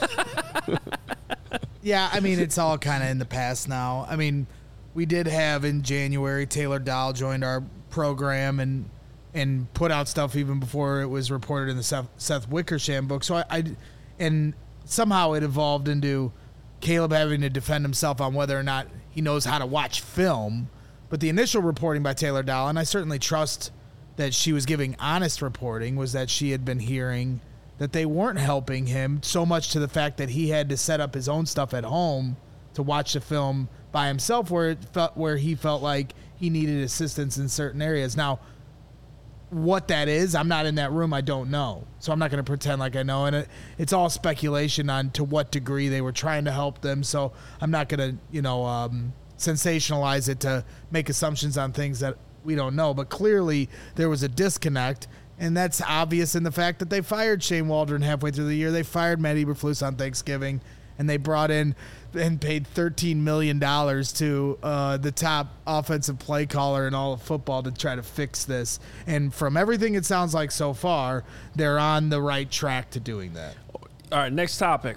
Yeah, I mean, it's all kind of in the past now. I mean, we did have in January Taylor Dahl joined our program and put out stuff even before it was reported in the Seth Wickersham book. So and somehow it evolved into Caleb having to defend himself on whether or not he knows how to watch film. But the initial reporting by Taylor Dahl, and I certainly trust that she was giving honest reporting, was that she had been hearing that they weren't helping him so much to the fact that he had to set up his own stuff at home to watch the film by himself, where he felt like he needed assistance in certain areas. Now, what that is, I'm not in that room. I don't know. So I'm not going to pretend like I know. And it's all speculation on to what degree they were trying to help them. So I'm not going to, sensationalize it to make assumptions on things that we don't know. But clearly there was a disconnect. And that's obvious in the fact that they fired Shane Waldron halfway through the year. They fired Matt Eberflus on Thanksgiving. And they brought in and paid $13 million to the top offensive play caller in all of football to try to fix this. And from everything it sounds like so far, they're on the right track to doing that. All right, next topic.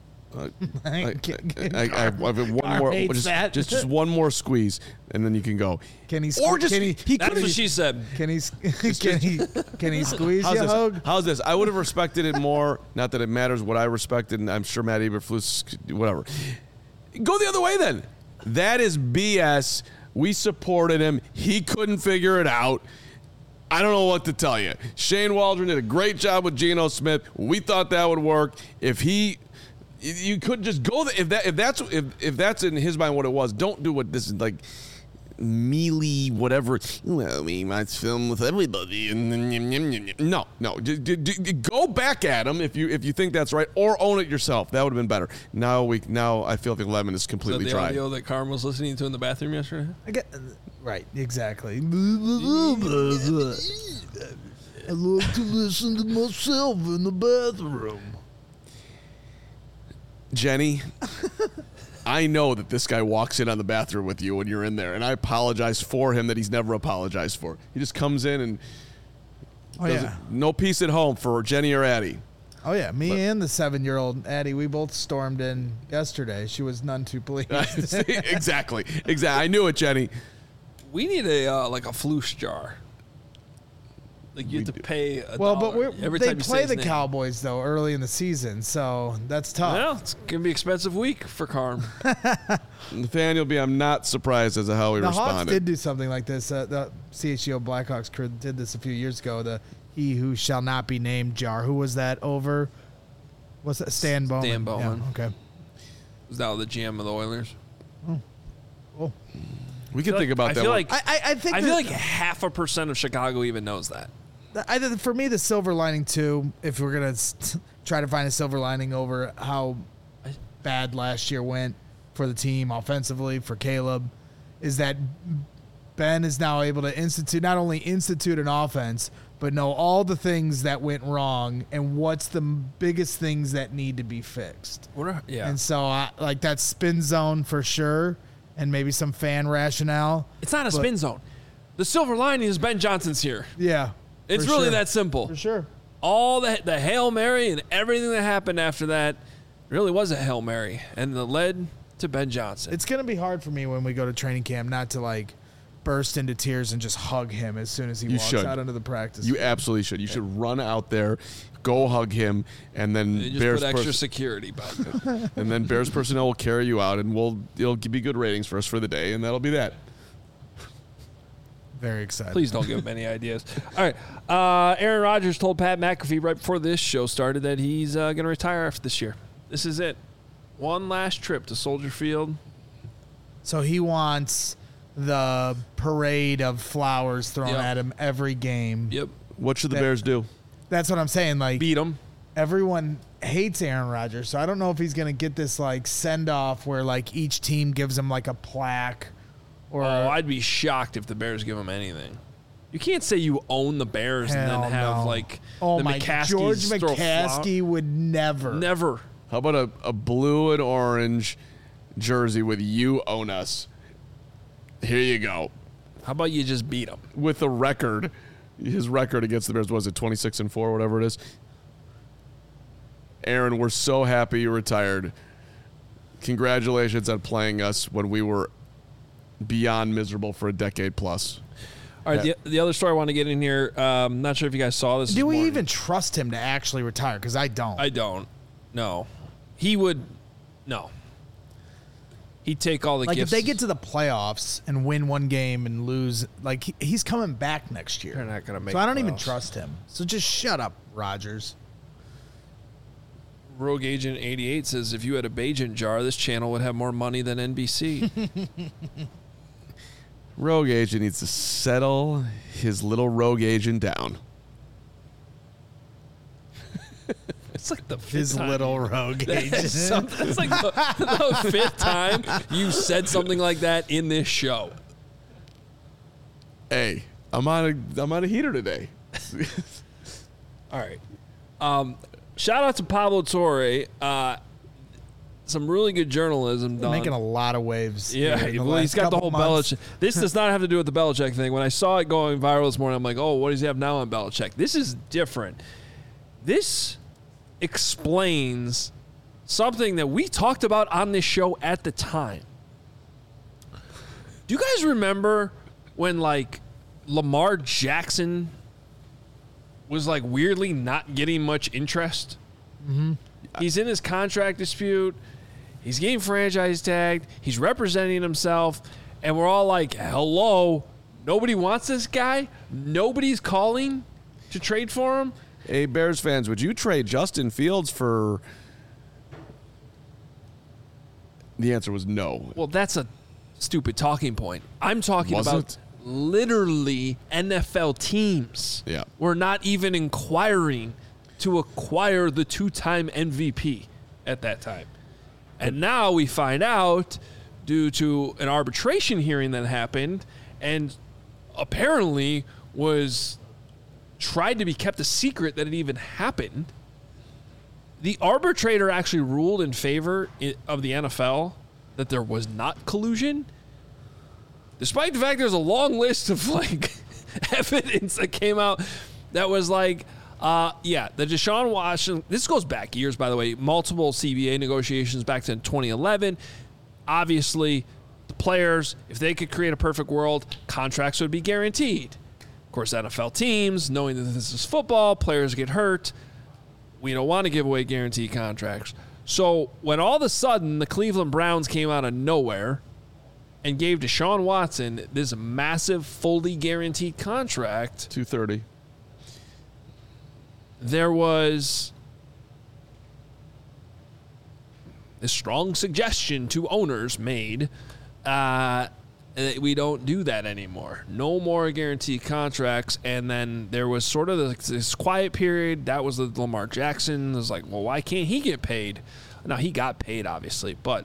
I have one more. Just one more squeeze, and then you can go. Can he? Or just That's what she said. Can he squeeze How's you, this? Hogue? How's this? I would have respected it more. Not that it matters what I respected, and I'm sure Matt Eberflus, whatever. Go the other way then. That is BS. We supported him. He couldn't figure it out. I don't know what to tell you. Shane Waldron did a great job with Geno Smith. We thought that would work. You could just go. If that's in his mind what it was, don't do what this is like. Mealy, whatever. Well, we might film with everybody. No. Go back at him if you think that's right, or own it yourself. That would have been better. Now I feel like the lemon is completely the dry. audio that Carm was listening to in the bathroom yesterday. Right, exactly. I love to listen to myself in the bathroom. Jenny, I know that this guy walks in on the bathroom with you when you're in there, and I apologize for him that he's never apologized for. He just comes in and no peace at home for Jenny or Addie. Oh, yeah. And the 7-year-old Addie, we both stormed in yesterday. She was none too pleased. Exactly. I knew it, Jenny. We need a Flus jar. Like you have to pay a Well, dollar but every they time you say play his the name. Cowboys though early in the season, so that's tough. Well, it's gonna be an expensive week for Carm. Nathaniel B., I'm not surprised as to how he The Hawks responded. did do something like this. The CHGO Blackhawks crew did this a few years ago. The "He Who Shall Not Be Named" jar. Who was that over? What's that? Stan Bowman. Stan Bowman. Yeah, okay. Was now the GM of the Oilers. Cool. We can think about I that feel one. like I think I feel that- like 0.5% of Chicago even knows that. For me, the silver lining too, if we're gonna try to find a silver lining over how bad last year went for the team offensively for Caleb, is that Ben is now able to not only institute an offense, but know all the things that went wrong and what's the biggest things that need to be fixed. Yeah. And so, like that spin zone for sure, and maybe some fan rationale. It's not a spin zone. The silver lining is Ben Johnson's here. Yeah, It's for really sure. that simple. For sure. All the Hail Mary and everything that happened after that really was a Hail Mary, and it led to Ben Johnson. It's going to be hard for me when we go to training camp not to like burst into tears and just hug him as soon as he walks should. out into the practice. You absolutely should. You should run out there, go hug him, and then They just Bears put extra pers- security behind it. and then Bears personnel will carry you out, and it'll be good ratings for us for the day, and that'll be that. Very excited. Please don't give him any ideas. All right. Aaron Rodgers told Pat McAfee right before this show started that he's going to retire after this year. This is it. One last trip to Soldier Field. So he wants the parade of flowers thrown Yep. at him every game. Yep. What should the That- Bears do? That's what I'm saying. Like Beat him. everyone hates Aaron Rodgers, so I don't know if he's going to get this like send off where like each team gives him like a plaque or Oh, I'd be shocked if the Bears give him anything. You can't say you own the Bears and Hell then have no. like oh the my McCaskies George throw McCaskey would never. Never. How about a blue and orange jersey with "You Own Us"? Here you go. How about you just beat him? With a record, his record against the Bears was it 26-4, whatever it is. Aaron, we're so happy you retired. Congratulations on playing us when we were beyond miserable for a decade plus. All right, the other story I want to get in here, not sure if you guys saw this. Do this we morning. even trust him to actually retire? Because I don't. I don't. No. He would. No. He'd take all the Like gifts. if they get to the playoffs and win one game and lose, like he's coming back next year. They're not going to make So I don't the even playoffs. trust him. So just shut up, Rodgers. Rogue Agent 88 says if you had a Bajent jar, this channel would have more money than NBC. Rogue Agent needs to settle his little rogue agent down. It's like the fifth His time. little rogue agent. That's like the fifth time you said something like that in this show. Hey, I'm on a heater today. All right. Shout out to Pablo Torre. Some really good journalism done. Making a lot of waves. Yeah, here in the well, he's last got the couple whole months. Belichick. This does not have to do with the Belichick thing. When I saw it going viral this morning, I'm like, oh, what does he have now on Belichick? This is different. This explains something that we talked about on this show at the time. Do you guys remember when, like, Lamar Jackson was, like, weirdly not getting much interest? Mm-hmm. He's in his contract dispute. He's getting franchise tagged. He's representing himself. And we're all like, hello, nobody wants this guy? Nobody's calling to trade for him? Hey, Bears fans, would you trade Justin Fields for... The answer was no. Well, that's a stupid talking point. I'm talking Was about it? literally NFL teams. Yeah. We're not even inquiring to acquire the two-time MVP at that time. And now we find out, due to an arbitration hearing that happened, and apparently was tried to be kept a secret that it even happened, the arbitrator actually ruled in favor of the NFL that there was not collusion, despite the fact there's a long list of like evidence that came out that was like, the Deshaun Watson, this goes back years, by the way, multiple CBA negotiations back to 2011. Obviously, the players, if they could create a perfect world, contracts would be guaranteed. Of course, NFL teams, knowing that this is football, players get hurt. We don't want to give away guaranteed contracts. So when all of a sudden the Cleveland Browns came out of nowhere and gave Deshaun Watson this massive, fully guaranteed contract, $230. there was a strong suggestion to owners made that we don't do that anymore. No more guaranteed contracts. And then there was sort of this quiet period. That was the Lamar Jackson. It was like, well, why can't he get paid? Now, he got paid, obviously. But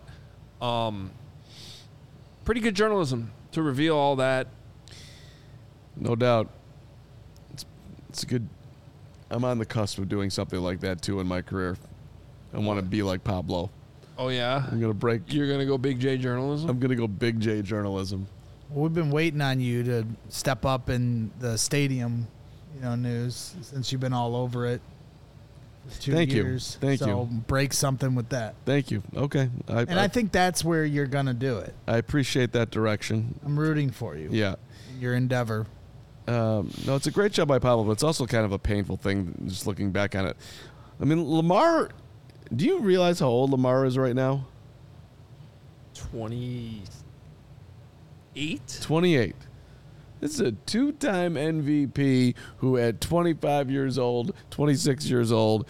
pretty good journalism to reveal all that. No doubt. It's a good. I'm on the cusp of doing something like that, too, in my career. I want to be like Pablo. Oh, yeah? I'm going to break. You're going to go Big J journalism? I'm going to go Big J journalism. We've been waiting on you to step up in the stadium, news since you've been all over it for 2 years. Thank you. So break something with that. Thank you. Okay. I think that's where you're going to do it. I appreciate that direction. I'm rooting for you. Yeah. In your endeavor. No, it's a great job by Pablo, but it's also kind of a painful thing just looking back on it. I mean, Lamar, do you realize how old Lamar is right now? 28? 28. This is a two-time MVP who at 25 years old, 26 years old,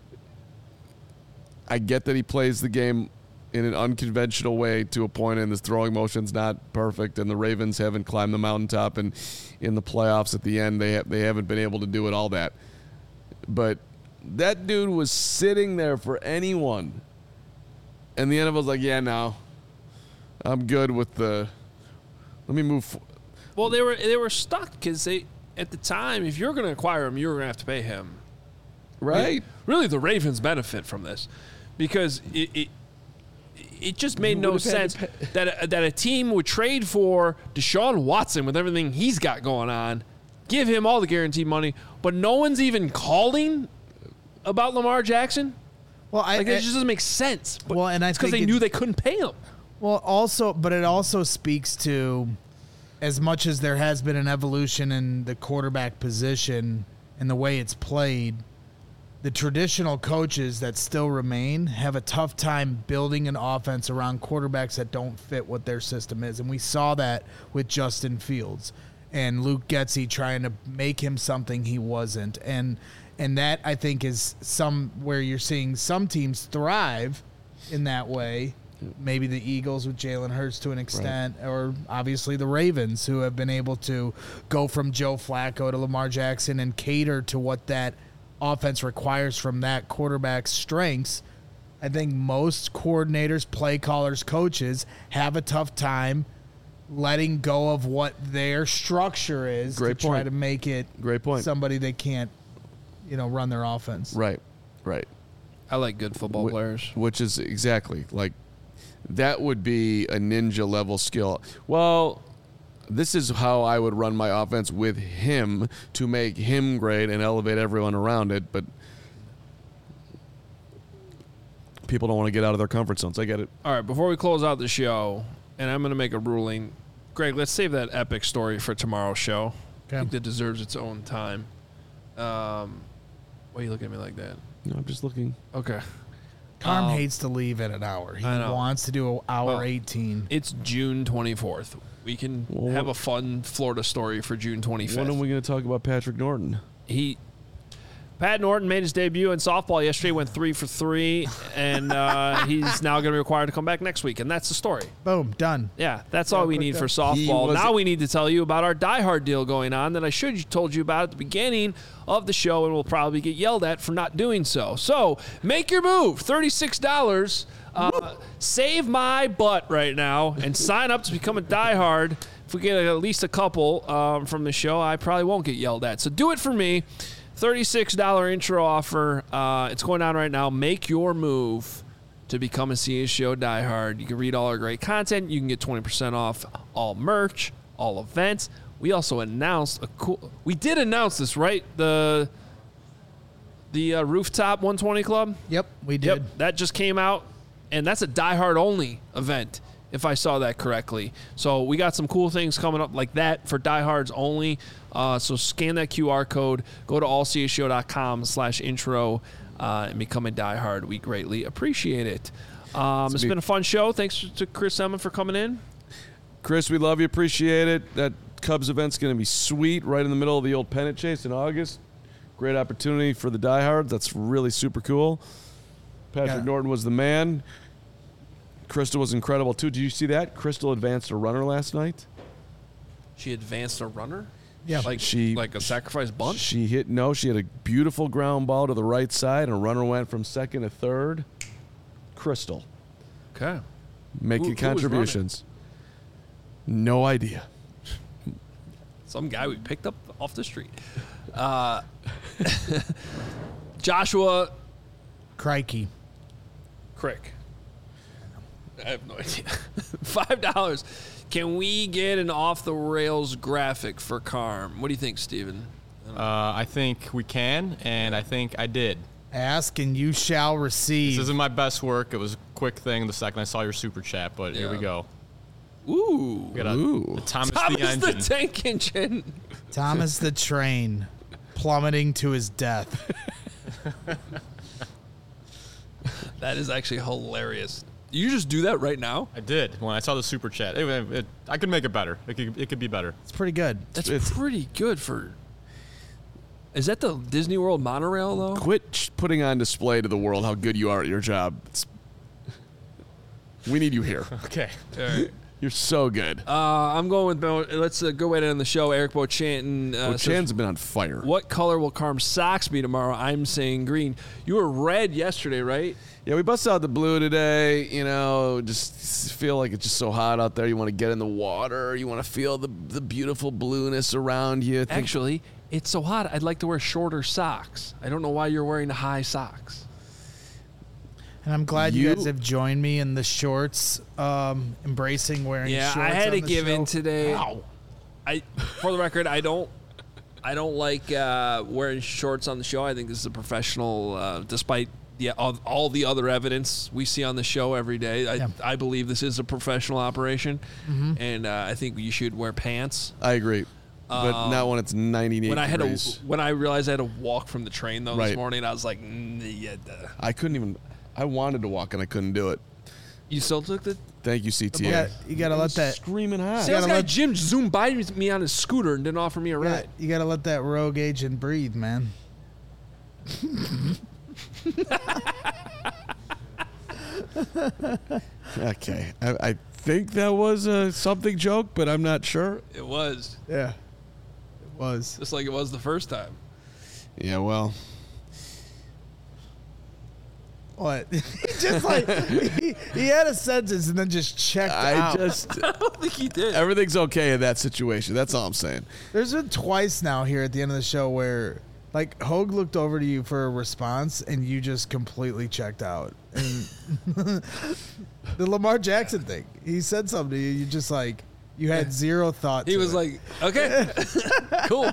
I get that he plays the game in an unconventional way to a point, and his throwing motion's not perfect, and the Ravens haven't climbed the mountaintop, and in the playoffs at the end, they haven't been able to do it, all that. But that dude was sitting there for anyone, and the NFL was like, yeah, no, I'm good with the – let me move – Well, they were stuck because at the time, if you're going to acquire him, you're going to have to pay him. Right. Really, the Ravens benefit from this because it just made no sense that a team would trade for Deshaun Watson with everything he's got going on, give him all the guaranteed money, but no one's even calling about Lamar Jackson. Well, it just doesn't make sense. But well, and I it's because think they knew they couldn't pay him. Well, but it also speaks to, as much as there has been an evolution in the quarterback position and the way it's played, the traditional coaches that still remain have a tough time building an offense around quarterbacks that don't fit what their system is. And we saw that with Justin Fields and Luke Getsy trying to make him something he wasn't. And that, I think, is where you're seeing some teams thrive in that way. Maybe the Eagles with Jalen Hurts to an extent, right, or obviously the Ravens, who have been able to go from Joe Flacco to Lamar Jackson and cater to what that offense requires from that quarterback's strengths. I think most coordinators, play callers, coaches have a tough time letting go of what their structure is try to make it somebody they can't, run their offense. Right. I like good football players. Which is exactly like that would be a ninja level skill. Well, this is how I would run my offense with him to make him great and elevate everyone around it. But people don't want to get out of their comfort zones. I get it. All right, before we close out the show, and I'm going to make a ruling. Greg, let's save that epic story for tomorrow's show. Okay. I think that deserves its own time. Why are you looking at me like that? No, I'm just looking. Okay. Carm hates to leave at an hour. He wants to do an hour 18. It's June 24th. We can have a fun Florida story for June 25th. When are we going to talk about Patrick Norton? Pat Norton made his debut in softball yesterday, went 3 for 3, and he's now going to be required to come back next week, and that's the story. Boom, done. Yeah, that's all we need for softball. Now we need to tell you about our Die Hard deal going on that I should have told you about at the beginning of the show, and we'll probably get yelled at for not doing so. So make your move, $36. Save my butt right now and sign up to become a Die Hard. If we get at least a couple from the show, I probably won't get yelled at. So do it for me. $36 intro offer. It's going on right now. Make your move to become a CSGO diehard. You can read all our great content. You can get 20% off all merch, all events. We also announced we did announce this, right? The Rooftop 120 Club. Yep, we did. Yep, that just came out, and that's a diehard only event. if I saw that correctly. So we got some cool things coming up like that for diehards only. So scan that QR code, go to allcshow.com/intro, and become a diehard. We greatly appreciate it. It's been a fun show. Thanks to Chris Emma for coming in. Chris, we love you. Appreciate it. That Cubs event's going to be sweet right in the middle of the old pennant chase in August. Great opportunity for the diehards. That's really super cool. Patrick Norton was the man. Crystal was incredible, too. Did you see that? Crystal advanced a runner last night. She advanced a runner? Yeah. Like a sacrifice bunt? She had a beautiful ground ball to the right side, and a runner went from second to third. Crystal. Okay. Making Who was contributions. No idea. Some guy we picked up off the street. Joshua Crikey. Crick. I have no idea. $5. Can we get an off-the-rails graphic for Carm? What do you think, Steven? I think we can, and I think I did. Ask and you shall receive. This isn't my best work. It was a quick thing the second I saw your super chat, but here we go. Ooh. We got a Thomas the engine. the tank engine. Thomas the train plummeting to his death. That is actually hilarious. You just do that right now? I did when I saw the super chat. I could make it better. It could be better. It's pretty good. That's pretty good for... Is that the Disney World monorail, though? Quit putting on display to the world how good you are at your job. We need you here. Okay. All right. You're so good. I'm going with... Let's go right in the show. Eric Beauchanton Beauchanton's been on fire. What color will Carm's socks be tomorrow? I'm saying green. You were red yesterday, right? Yeah, we busted out the blue today. You know, just feel like it's just so hot out there. You want to get in the water. You want to feel the beautiful blueness around you. Actually, it's so hot, I'd like to wear shorter socks. I don't know why you're wearing high socks. And I'm glad you guys have joined me in the shorts, embracing wearing shorts. Yeah, I had on to the give show. in today. Wow. For the record, I don't like wearing shorts on the show. I think this is a professional, despite all the other evidence we see on the show every day. I believe this is a professional operation, and I think you should wear pants. I agree. But not when it's 98 degrees. When I realized I had to walk from the train, though, this morning, I was like, yeah. I couldn't even... I wanted to walk, and I couldn't do it. You still took the... Thank you, CTA. You got to let that... Screaming hot. Sales guy Jim zoomed by me on his scooter and didn't offer me a ride. You got to let that rogue agent breathe, man. Okay. I think that was a something joke, but I'm not sure. It was. Yeah. It was. Just like it was the first time. Yeah, well... What? He just like he had a sentence and then just checked out. I don't think he did. Everything's okay in that situation. That's all I'm saying. There's been twice now here at the end of the show where like Hogue looked over to you for a response and you just completely checked out. And the Lamar Jackson thing. He said something to you. You just like you had zero thought. He was like, okay, cool.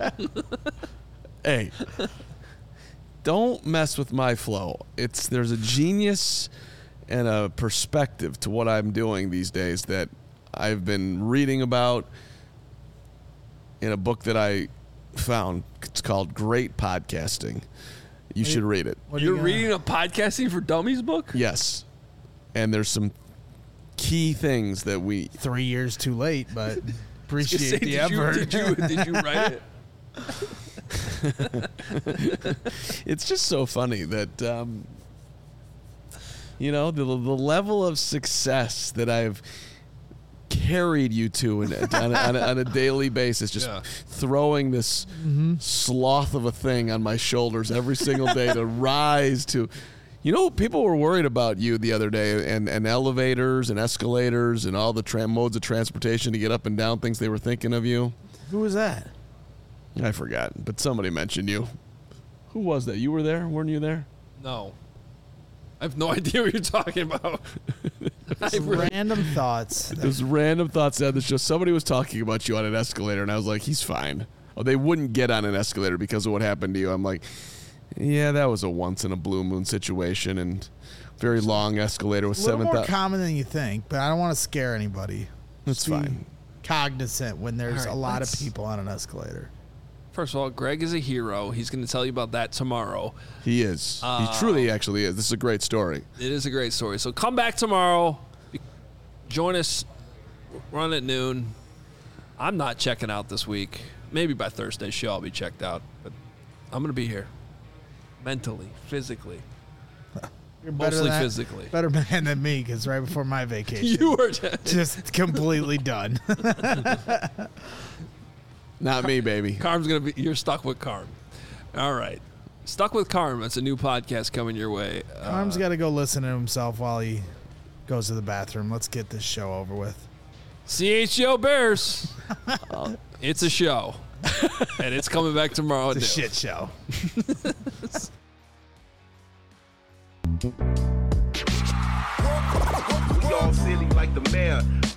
Hey. Don't mess with my flow. There's a genius and a perspective to what I'm doing these days that I've been reading about in a book that I found. It's called Great Podcasting. You should read it. You're reading a Podcasting for Dummies book? Yes. And there's some key things that 3 years too late, but appreciate the effort. Did you write it? It's just so funny that the level of success that I've carried you to on a daily basis, just throwing this sloth of a thing on my shoulders every single day to rise to. People were worried about you the other day and elevators and escalators and all the modes of transportation to get up and down things. They were thinking of you. Who was that? I forgot, but somebody mentioned you. Who was that? You were there? Weren't you there? No. I have no idea what you're talking about. Random thoughts. Those random thoughts on the show. Somebody was talking about you on an escalator, and I was like, he's fine. Oh, they wouldn't get on an escalator because of what happened to you. I'm like, Yeah, that was a once in a blue moon situation and very long escalator with A little 7,000. more common than you think, but I don't want to scare anybody. That's Just be fine. cognizant when there's All right, a lot of let's- people on an escalator. First of all, Greg is a hero. He's going to tell you about that tomorrow. He is. He truly actually is. This is a great story. It is a great story. So come back tomorrow. Join us. Run at noon. I'm not checking out this week. Maybe by Thursday's show I'll be checked out. But I'm going to be here. Mentally, physically. You're better Mostly than physically. Better man than me, because right before my vacation, You were just completely done. Not me, baby. Carm's going to be, you're stuck with Carm. All right. Stuck with Carm. That's a new podcast coming your way. Arm's got to go listen to himself while he goes to the bathroom. Let's get this show over with. CHO Bears. It's a show. And it's coming back tomorrow. It's a at noon. shit show. We all silly like the mayor.